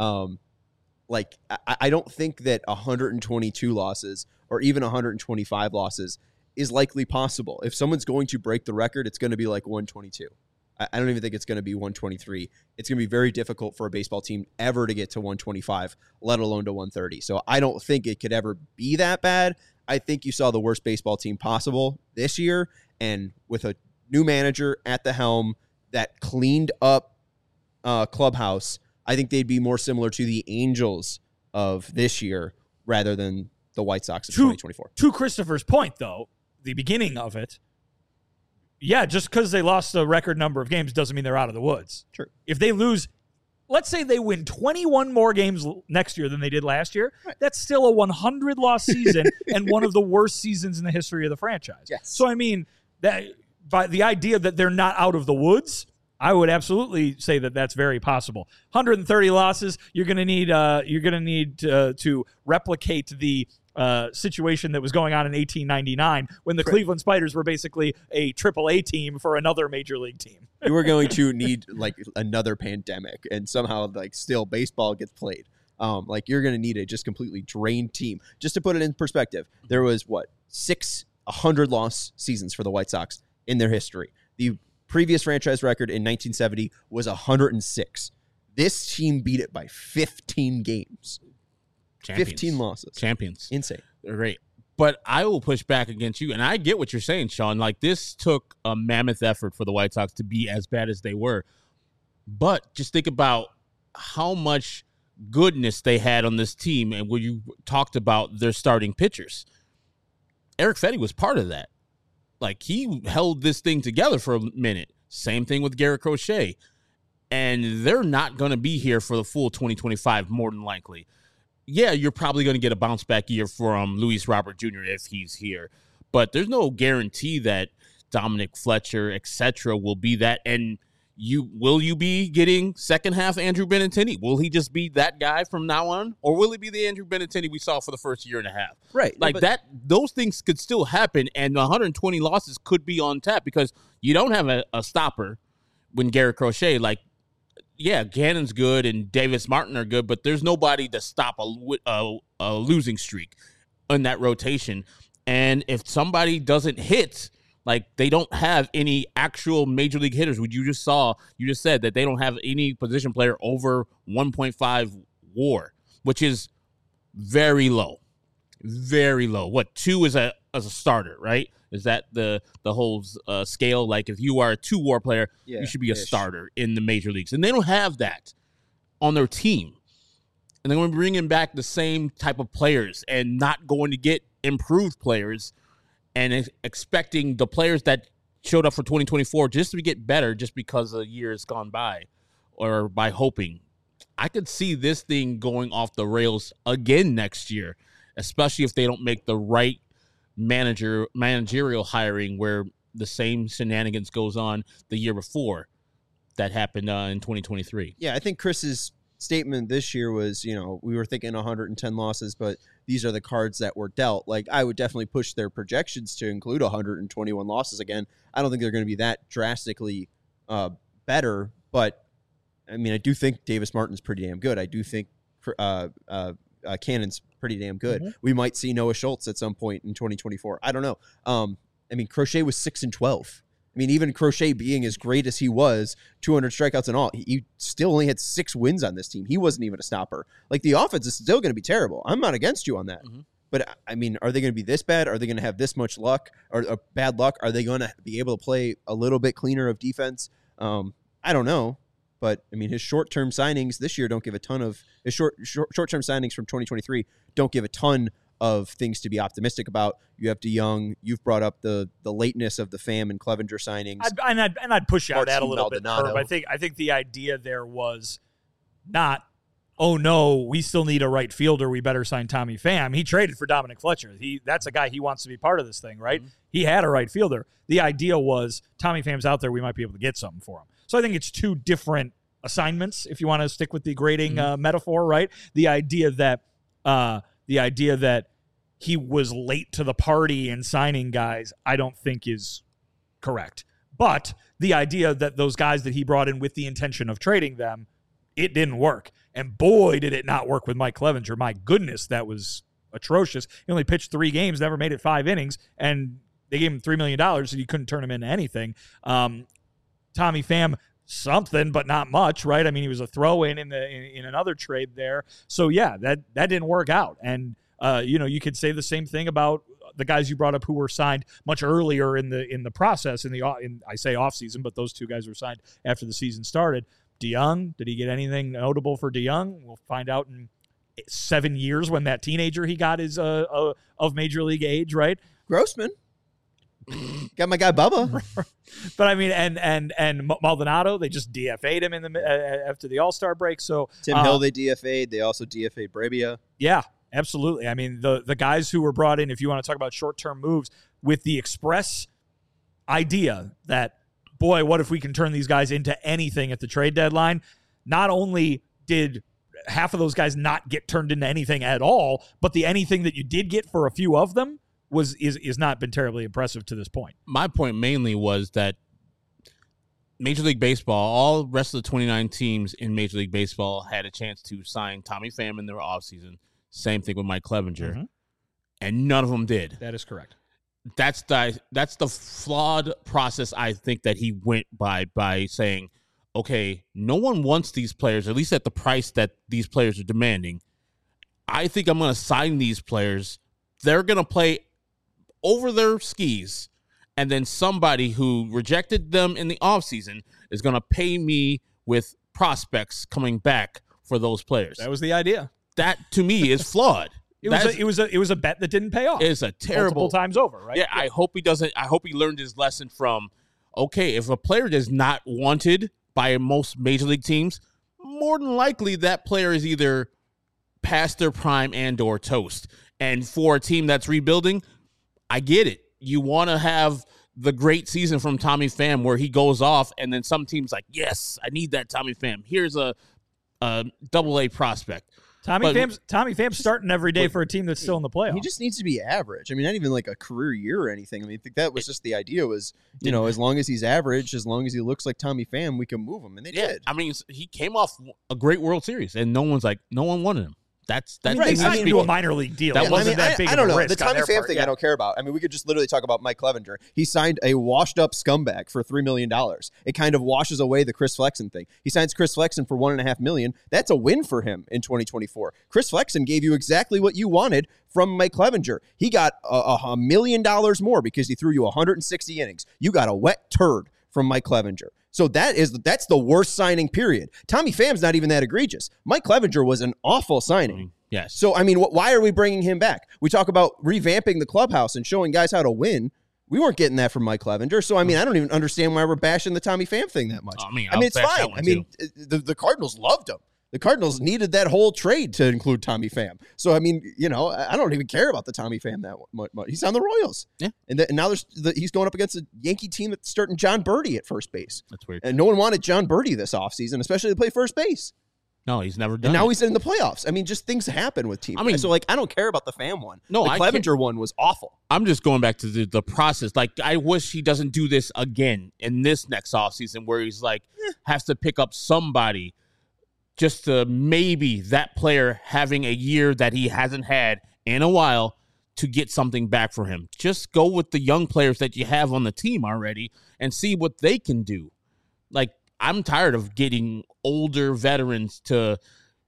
I don't think that 122 losses or even 125 losses is likely possible. If someone's going to break the record, it's going to be like 122. I don't even think it's going to be 123. It's going to be very difficult for a baseball team ever to get to 125, let alone to 130. So I don't think it could ever be that bad. I think you saw the worst baseball team possible this year, and with a new manager at the helm that cleaned up clubhouse, I think they'd be more similar to the Angels of this year rather than the White Sox of 2024. To Christopher's point, though, the beginning of it, yeah, just because they lost a record number of games doesn't mean they're out of the woods. Sure. If they lose, let's say they win 21 more games next year than they did last year, right, that's still a 100-loss season and one of the worst seasons in the history of the franchise. Yes. So, I mean, that by the idea that they're not out of the woods, I would absolutely say that that's very possible. 130 losses, you're going to need to replicate the situation that was going on in 1899 when the Cleveland Spiders were basically a AAA team for another major league team. You were going to need like another pandemic, and somehow like still baseball gets played. You're going to need a just completely drained team. Just to put it in perspective, there was 6 100-loss seasons for the White Sox in their history. The previous franchise record in 1970 was 106. This team beat it by 15 games. Champions. 15 losses. Champions. Insane. They're great. But I will push back against you, and I get what you're saying, Sean. Like, this took a mammoth effort for the White Sox to be as bad as they were. But just think about how much goodness they had on this team, and when you talked about their starting pitchers. Eric Fetty was part of that. Like, he held this thing together for a minute. Same thing with Garrett Crochet. And they're not going to be here for the full 2025, more than likely. Yeah, you're probably going to get a bounce back year from Luis Robert Jr. if he's here. But there's no guarantee that Dominic Fletcher, etc., will be that. And will you be getting second half Andrew Benintendi? Will he just be that guy from now on? Or will it be the Andrew Benintendi we saw for the first year and a half? Right. Like those things could still happen, and 120 losses could be on tap because you don't have a stopper when Garrett Crochet. Like, yeah, Gannon's good and Davis Martin are good, but there's nobody to stop a losing streak in that rotation. And if somebody doesn't hit, like they don't have any actual major league hitters. You just said that they don't have any position player over 1.5 WAR, which is very low. Very low. 2 is as a starter, right? Is that the whole scale? Like if you are a 2 WAR player, you should be a starter in the major leagues. And they don't have that on their team. And they're going to be bringing back the same type of players and not going to get improved players and expecting the players that showed up for 2024 just to get better just because a year has gone by or by hoping. I could see this thing going off the rails again next year, especially if they don't make the right managerial hiring where the same shenanigans goes on the year before that happened in 2023. Yeah, I think Chris's statement this year was, we were thinking 110 losses, but these are the cards that were dealt. Like, I would definitely push their projections to include 121 losses again. I don't think they're going to be that drastically better, but I mean, I do think Davis Martin's pretty damn good. I do think Cannon's pretty damn good. Mm-hmm. We might see Noah Schultz at some point in 2024. I don't know. I mean, Crochet was 6-12. I mean, even Crochet being as great as he was, 200 strikeouts and all, he still only had 6 wins on this team. He wasn't even a stopper. Like, the offense is still going to be terrible. I'm not against you on that. Mm-hmm. But, I mean, are they going to be this bad? Are they going to have this much luck or bad luck? Are they going to be able to play a little bit cleaner of defense? I don't know. But, I mean, his short-term signings this year don't give a ton of – his short-term signings from 2023 don't give a ton of things to be optimistic about. You have DeYoung. You've brought up the lateness of the Pham and Clevenger signings. I'd push out that a little bit. Maldonado. I think the idea there was not, oh no, we still need a right fielder, we better sign Tommy Pham. He traded for Dominic Fletcher. That's a guy he wants to be part of this thing, right? Mm-hmm. He had a right fielder. The idea was Tommy Pham's out there, we might be able to get something for him. So I think it's two different assignments, if you want to stick with the grading metaphor, right? The idea that he was late to the party in signing guys, I don't think is correct. But the idea that those guys that he brought in with the intention of trading them, it didn't work. And boy, did it not work with Mike Clevenger. My goodness, that was atrocious. He only pitched 3 games, never made it 5 innings, and they gave him $3 million, so you couldn't turn him into anything. Tommy Pham, something, but not much, right? I mean, he was a throw-in in another trade there. So, yeah, that didn't work out. And, you could say the same thing about the guys you brought up who were signed much earlier in the process, I say offseason, but those 2 guys were signed after the season started. DeYoung, did he get anything notable for DeYoung? We'll find out in 7 years when that teenager he got is of major league age, right? Grossman. Got my guy Bubba. But I mean, and Maldonado, they just DFA'd him after the All-Star break. So Tim Hill, they DFA'd. They also DFA'd Brebia. Yeah, absolutely. I mean, the guys who were brought in, if you want to talk about short-term moves, with the express idea that, boy, what if we can turn these guys into anything at the trade deadline? Not only did half of those guys not get turned into anything at all, but the anything that you did get for a few of them is not been terribly impressive to this point. My point mainly was that Major League Baseball, all the rest of the 29 teams in Major League Baseball had a chance to sign Tommy Pham in their offseason. Same thing with Mike Clevenger. And none of them did. That is correct. That's the flawed process I think that he went by saying, okay, no one wants these players, at least at the price that these players are demanding. I think I'm going to sign these players. They're going to play over their skis, and then somebody who rejected them in the offseason is going to pay me with prospects coming back for those players. That was the idea. That, to me, is flawed. It was a bet that didn't pay off. It's a terrible multiple times over, right? Yeah, I hope he doesn't. I hope he learned his lesson from, okay, if a player is not wanted by most major league teams, more than likely that player is either past their prime and or toast. And for a team that's rebuilding, I get it. You want to have the great season from Tommy Pham where he goes off, and then some teams like, yes, I need that Tommy Pham. Here's a AA prospect. Tommy Pham's starting every day for a team that's still in the playoffs. He just needs to be average. I mean, not even like a career year or anything. I mean, I think that was just the idea was, as long as he's average, as long as he looks like Tommy Pham, we can move him. And they did. I mean, he came off a great World Series, and no one wanted him. That's right. They signed him to a minor league deal. That wasn't that big I don't of a know. risk The Tommy Pham part, thing I don't care about. I mean, we could just literally talk about Mike Clevenger. He signed a washed-up scumbag for $3 million. It kind of washes away the Chris Flexen thing. He signs Chris Flexen for $1.5 million. That's a win for him in 2024. Chris Flexen gave you exactly what you wanted from Mike Clevenger. He got $1 million more because he threw you 160 innings. You got a wet turd from Mike Clevenger. So that's the worst signing period. Tommy Pham's not even that egregious. Mike Clevenger was an awful signing. Yes. So, I mean, why are we bringing him back? We talk about revamping the clubhouse and showing guys how to win. We weren't getting that from Mike Clevenger. So, I mean, I don't even understand why we're bashing the Tommy Pham thing that much. I mean, it's fine. I mean, the Cardinals loved him. The Cardinals needed that whole trade to include Tommy Pham. So, I mean, I don't even care about the Tommy Pham that much. He's on the Royals. Yeah. And now he's going up against a Yankee team that's starting John Birdie at first base. That's weird. And no one wanted John Birdie this offseason, especially to play first base. No, he's never done And now it. he's in the playoffs. I mean, just things happen with teams. I mean- so like, I don't care about the Pham one. No, the I Clevenger one was awful. I'm just going back to the process. Like, I wish he doesn't do this again in this next offseason where he's like, has to pick up somebody just to maybe that player having a year that he hasn't had in a while to get something back for him. Just go with the young players that you have on the team already and see what they can do. Like, I'm tired of getting older veterans to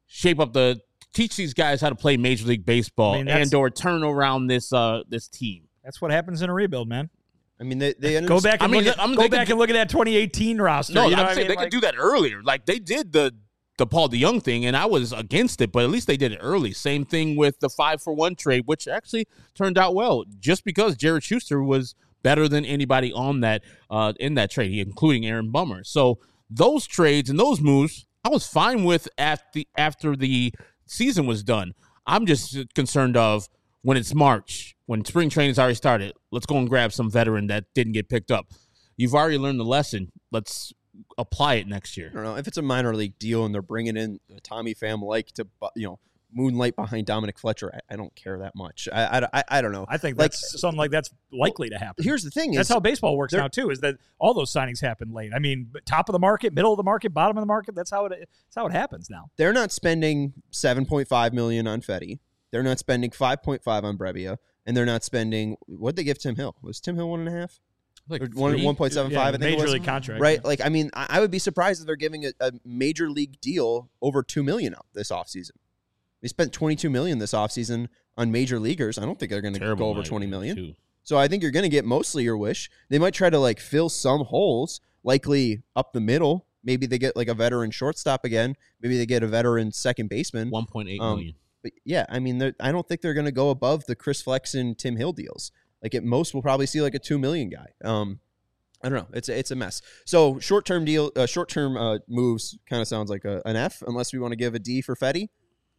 teach these guys how to play Major League Baseball and or turn around this team. That's what happens in a rebuild, man. I mean, they ended Go up back and look at that 2018 roster. No, you know I'm saying they could do that earlier. Like, they did the Paul DeJong thing, and I was against it, but at least they did it early. Same thing with the 5-for-1 trade, which actually turned out well, just because Jared Schuster was better than anybody on that in that trade, including Aaron Bummer. So those trades and those moves, I was fine with after the season was done. I'm just concerned of when it's March, when spring training's already started. Let's go and grab some veteran that didn't get picked up. You've already learned the lesson. Let's apply it next year. I don't know if it's a minor league deal and they're bringing in Tommy Pham like to moonlight behind Dominic Fletcher. I don't care that much. I don't know. I think that's something like that's likely to happen. Here's the thing: that's how baseball works now too. Is that all those signings happen late? I mean, top of the market, middle of the market, bottom of the market. That's how it happens now. They're not spending $7.5 million on Fetty. They're not spending $5.5 on Brebbia, and they're not spending what they give Tim Hill. Was Tim Hill 1.5? Like 1.75, I think major it was. league contract, right? Like, I mean, I would be surprised if they're giving a major league deal over $2 million out this offseason. They spent $22 million this offseason on major leaguers. I don't think they're going to go over $20 million. Too. So I think you're going to get mostly your wish. They might try to like fill some holes, likely up the middle. Maybe they get like a veteran shortstop again. Maybe they get a veteran second baseman. 1.8 million. But yeah, I mean, I don't think they're going to go above the Chris Flexen, Tim Hill deals. Like at most, we'll probably see like a $2 million guy. I don't know. It's a mess. So short-term moves kind of sounds like an F, unless we want to give a D for Fetty.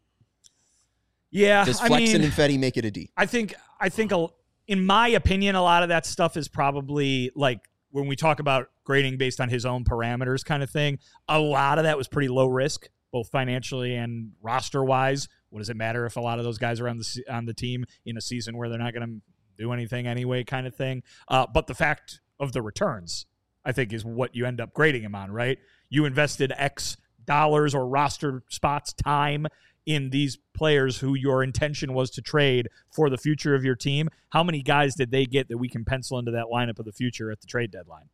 Yeah, Does Flexen and Fetty make it a D? I think in my opinion, a lot of that stuff is probably like when we talk about grading based on his own parameters kind of thing. A lot of that was pretty low risk, both financially and roster wise. What does it matter if a lot of those guys are on the team in a season where they're not going to do anything anyway, kind of thing? But the fact of the returns, I think, is what you end up grading him on, right? You invested X dollars or roster spots, time in these players who your intention was to trade for the future of your team. How many guys did they get that we can pencil into that lineup of the future at the trade deadline?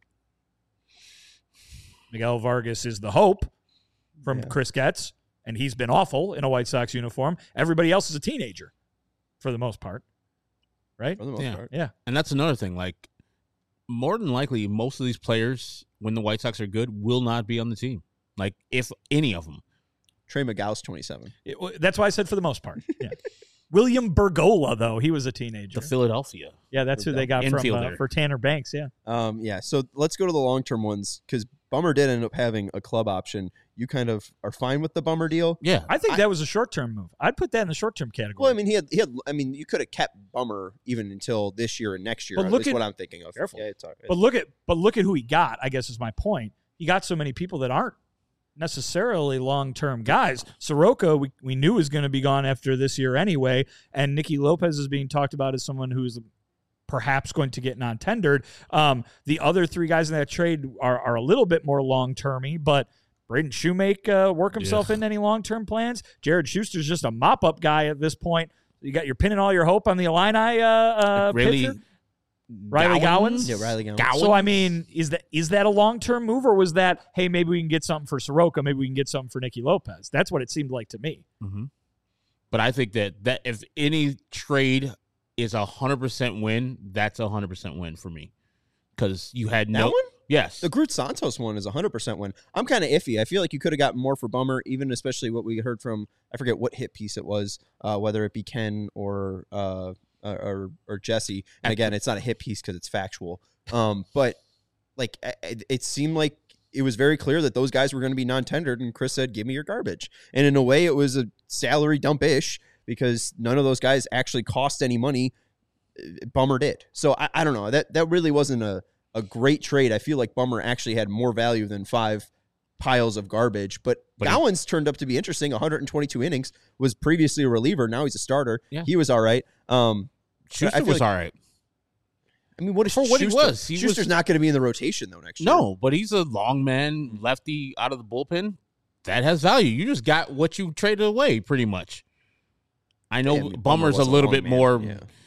Miguel Vargas is the hope from Chris Getz, and he's been awful in a White Sox uniform. Everybody else is a teenager for the most part, right? For the most part. Yeah. And that's another thing. Like, more than likely, most of these players, when the White Sox are good, will not be on the team. Like, if any of them. Trey McGow's 27. That's why I said for the most part. Yeah. William Bergola, though, he was a teenager. The Philadelphia. Yeah, that's who they got for Tanner Banks, yeah. Yeah, so let's go to the long-term ones, because Bummer did end up having a club option. You kind of are fine with the Bummer deal? Yeah. I think that was a short-term move. I'd put that in the short-term category. Well, I mean, he had. I mean, you could have kept Bummer even until this year and next year. That's what I'm thinking of. Careful. Yeah, but look at who he got, I guess is my point. He got so many people that aren't necessarily long-term guys. Soroka, we knew was going to be gone after this year anyway, and Nicky Lopez is being talked about as someone who's perhaps going to get non-tendered. The other three guys in that trade are a little bit more long-termy, but Braden Shoemake work himself into any long-term plans. Jared Schuster's just a mop-up guy at this point. You're pinning all your hope on the Illini pitcher. Riley Gowins? Yeah, Riley Gowins. So, I mean, is that a long-term move, or was that, hey, maybe we can get something for Soroka, maybe we can get something for Nicky Lopez? That's what it seemed like to me. Mm-hmm. But I think that if any trade is 100% win, that's 100% win for me. Because you had that one? Yes. The Groot Santos one is 100% win. I'm kind of iffy. I feel like you could have gotten more for Bummer, even especially what we heard from, I forget what hit piece it was, whether it be Ken or Jesse. And again, it's not a hit piece because it's factual. But like it seemed like it was very clear that those guys were going to be non-tendered, and Chris said, "Give me your garbage." And in a way, it was a salary dump-ish because none of those guys actually cost any money. Bummer did. So I don't know. That really wasn't a great trade. I feel like Bummer actually had more value than 5 piles of garbage. But Gowans turned up to be interesting. 122 innings, was previously a reliever. Now he's a starter. Yeah. He was all right. Schuster was all right. I mean, what is For what he Schuster? was. Schuster's not going to be in the rotation, though, next year. No, but he's a long man, lefty out of the bullpen. That has value. You just got what you traded away, pretty much. I know Bummer's a little bit more,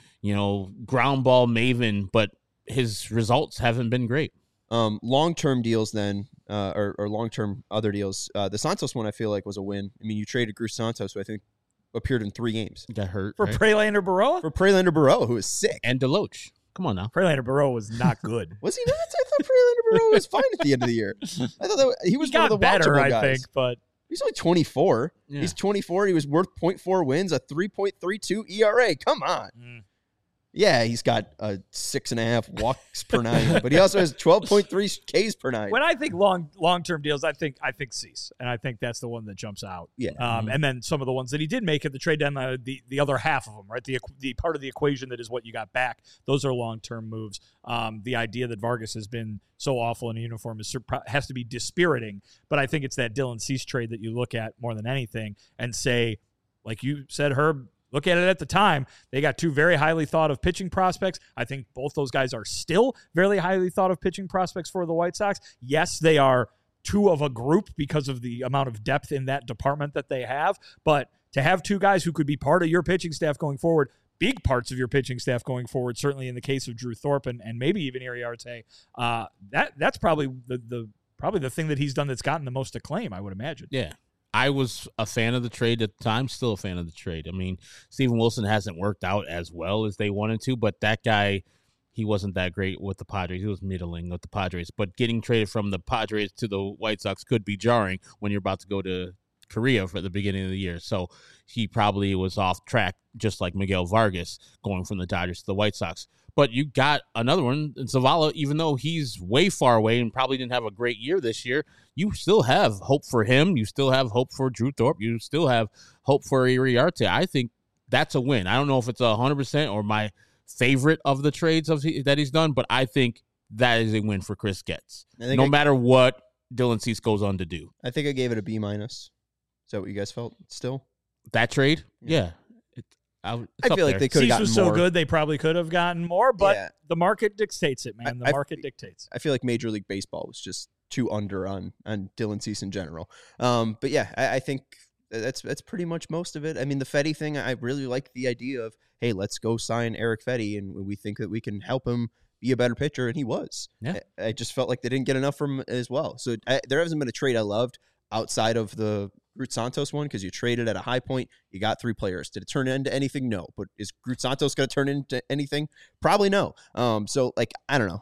ground ball maven, but his results haven't been great. Long-term deals then, or long-term other deals. The Santos one I feel like was a win. I mean, you traded Cruz Santos, who I think appeared in 3 games. Got hurt. For Prelander Baroa? For Prelander Baroa, who is sick. And Deloach. Come on now. Prelander Baroa was not good. Was he not? I thought Prelander Baroa was fine at the end of the year. I thought that he was one of the better, watchable I guys. think, but He's only 24. Yeah. He's 24. He was worth 0.4 wins, a 3.32 ERA. Come on. Yeah, he's got a 6.5 walks per 9, but he also has 12.3 Ks per 9. when I think long-term deals, I think Cease, and I think that's the one that jumps out. Yeah. And then some of the ones that he did make at the trade deadline, the other half of them, right? The part of the equation that is what you got back. Those are long-term moves. The idea that Vargas has been so awful in a uniform has to be dispiriting, but I think it's that Dylan Cease trade that you look at more than anything and say, like you said, Herb, look at it at the time. They got 2 very highly thought of pitching prospects. I think both those guys are still very highly thought of pitching prospects for the White Sox. Yes, they are 2 of a group because of the amount of depth in that department that they have. But to have 2 guys who could be part of your pitching staff going forward, big parts of your pitching staff going forward, certainly in the case of Drew Thorpe and maybe even Iriarte, that's probably the thing that he's done that's gotten the most acclaim, I would imagine. Yeah. I was a fan of the trade at the time, still a fan of the trade. I mean, Steven Wilson hasn't worked out as well as they wanted to, but that guy, he wasn't that great with the Padres. He was middling with the Padres. But getting traded from the Padres to the White Sox could be jarring when you're about to go to Korea for the beginning of the year. So he probably was off track, just like Miguel Vargas going from the Dodgers to the White Sox. But you got another one, Zavala, even though he's way far away and probably didn't have a great year this year, you still have hope for him. You still have hope for Drew Thorpe. You still have hope for Iriarte. I think that's a win. I don't know if it's 100% or my favorite of the trades that he's done, but I think that is a win for Chris Getz, no matter what Dylan Cease goes on to do. I think I gave it a B-. Is that what you guys felt still? That trade? Yeah. I feel like they could have gotten was more. so good they probably could have gotten more, but the market dictates it, man. The market dictates. I feel like Major League Baseball was just too under on Dylan Cease in general. But yeah, I think that's pretty much most of it. I mean, the Fedde thing, I really like the idea of, hey, let's go sign Eric Fedde, and we think that we can help him be a better pitcher, and he was. Yeah. I just felt like they didn't get enough from him as well. So there hasn't been a trade I loved outside of the Cruz Santos one, because you traded at a high point. You got 3 players. Did it turn into anything? No. But is Cruz Santos going to turn into anything? Probably no. So like, I don't know.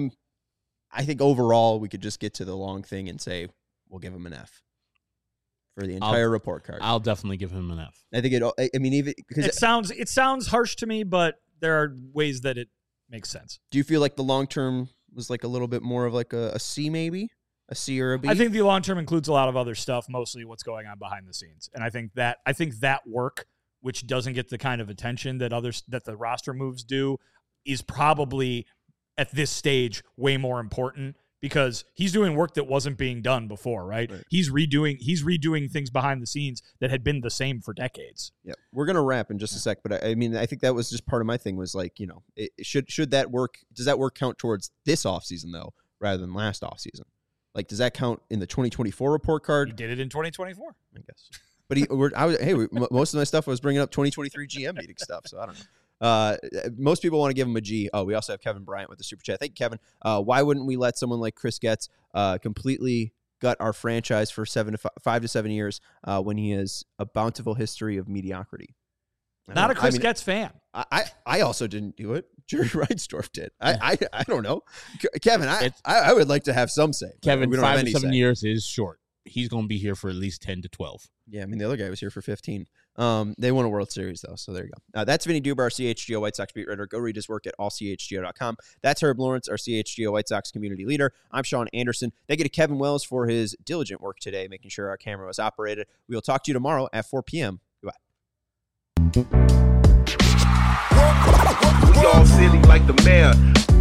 I think overall we could just get to the long thing and say we'll give him an F for the entire report card. I'll definitely give him an F. I think I mean, even because it sounds harsh to me, but there are ways that it makes sense. Do you feel like the long term was like a little bit more of like a C, maybe a C or a B? I think the long term includes a lot of other stuff, mostly what's going on behind the scenes, and I think that work, which doesn't get the kind of attention that the roster moves do, is probably at this stage way more important, because he's doing work that wasn't being done before, right? He's redoing things behind the scenes that had been the same for decades. Yeah, we're gonna wrap in just a sec, but I mean, I think that was just part of my thing was like, you know, should that work? Does that work count towards this offseason though, rather than last offseason? Like, does that count in the 2024 report card? He did it in 2024, I guess. But most of my stuff was bringing up 2023 GM meeting stuff, so I don't know. Most people want to give him a G. Oh, we also have Kevin Bryant with the super chat. Thank you, Kevin. Why wouldn't we let someone like Chris Getz completely gut our franchise for 5 to 7 years when he has a bountiful history of mediocrity? Not a Chris Getz fan. I also didn't do it. Jerry Reinsdorf did. I don't know. Kevin, I would like to have some say. Kevin, 5 to 7 years is short. He's going to be here for at least 10 to 12. Yeah, I mean, the other guy was here for 15. They won a World Series, though, so there you go. That's Vinny Duber, CHGO White Sox beat writer. Go read his work at allchgo.com. That's Herb Lawrence, our CHGO White Sox community leader. I'm Sean Anderson. Thank you to Kevin Wells for his diligent work today, making sure our camera was operated. We will talk to you tomorrow at 4 p.m. Goodbye. We all silly like the mayor.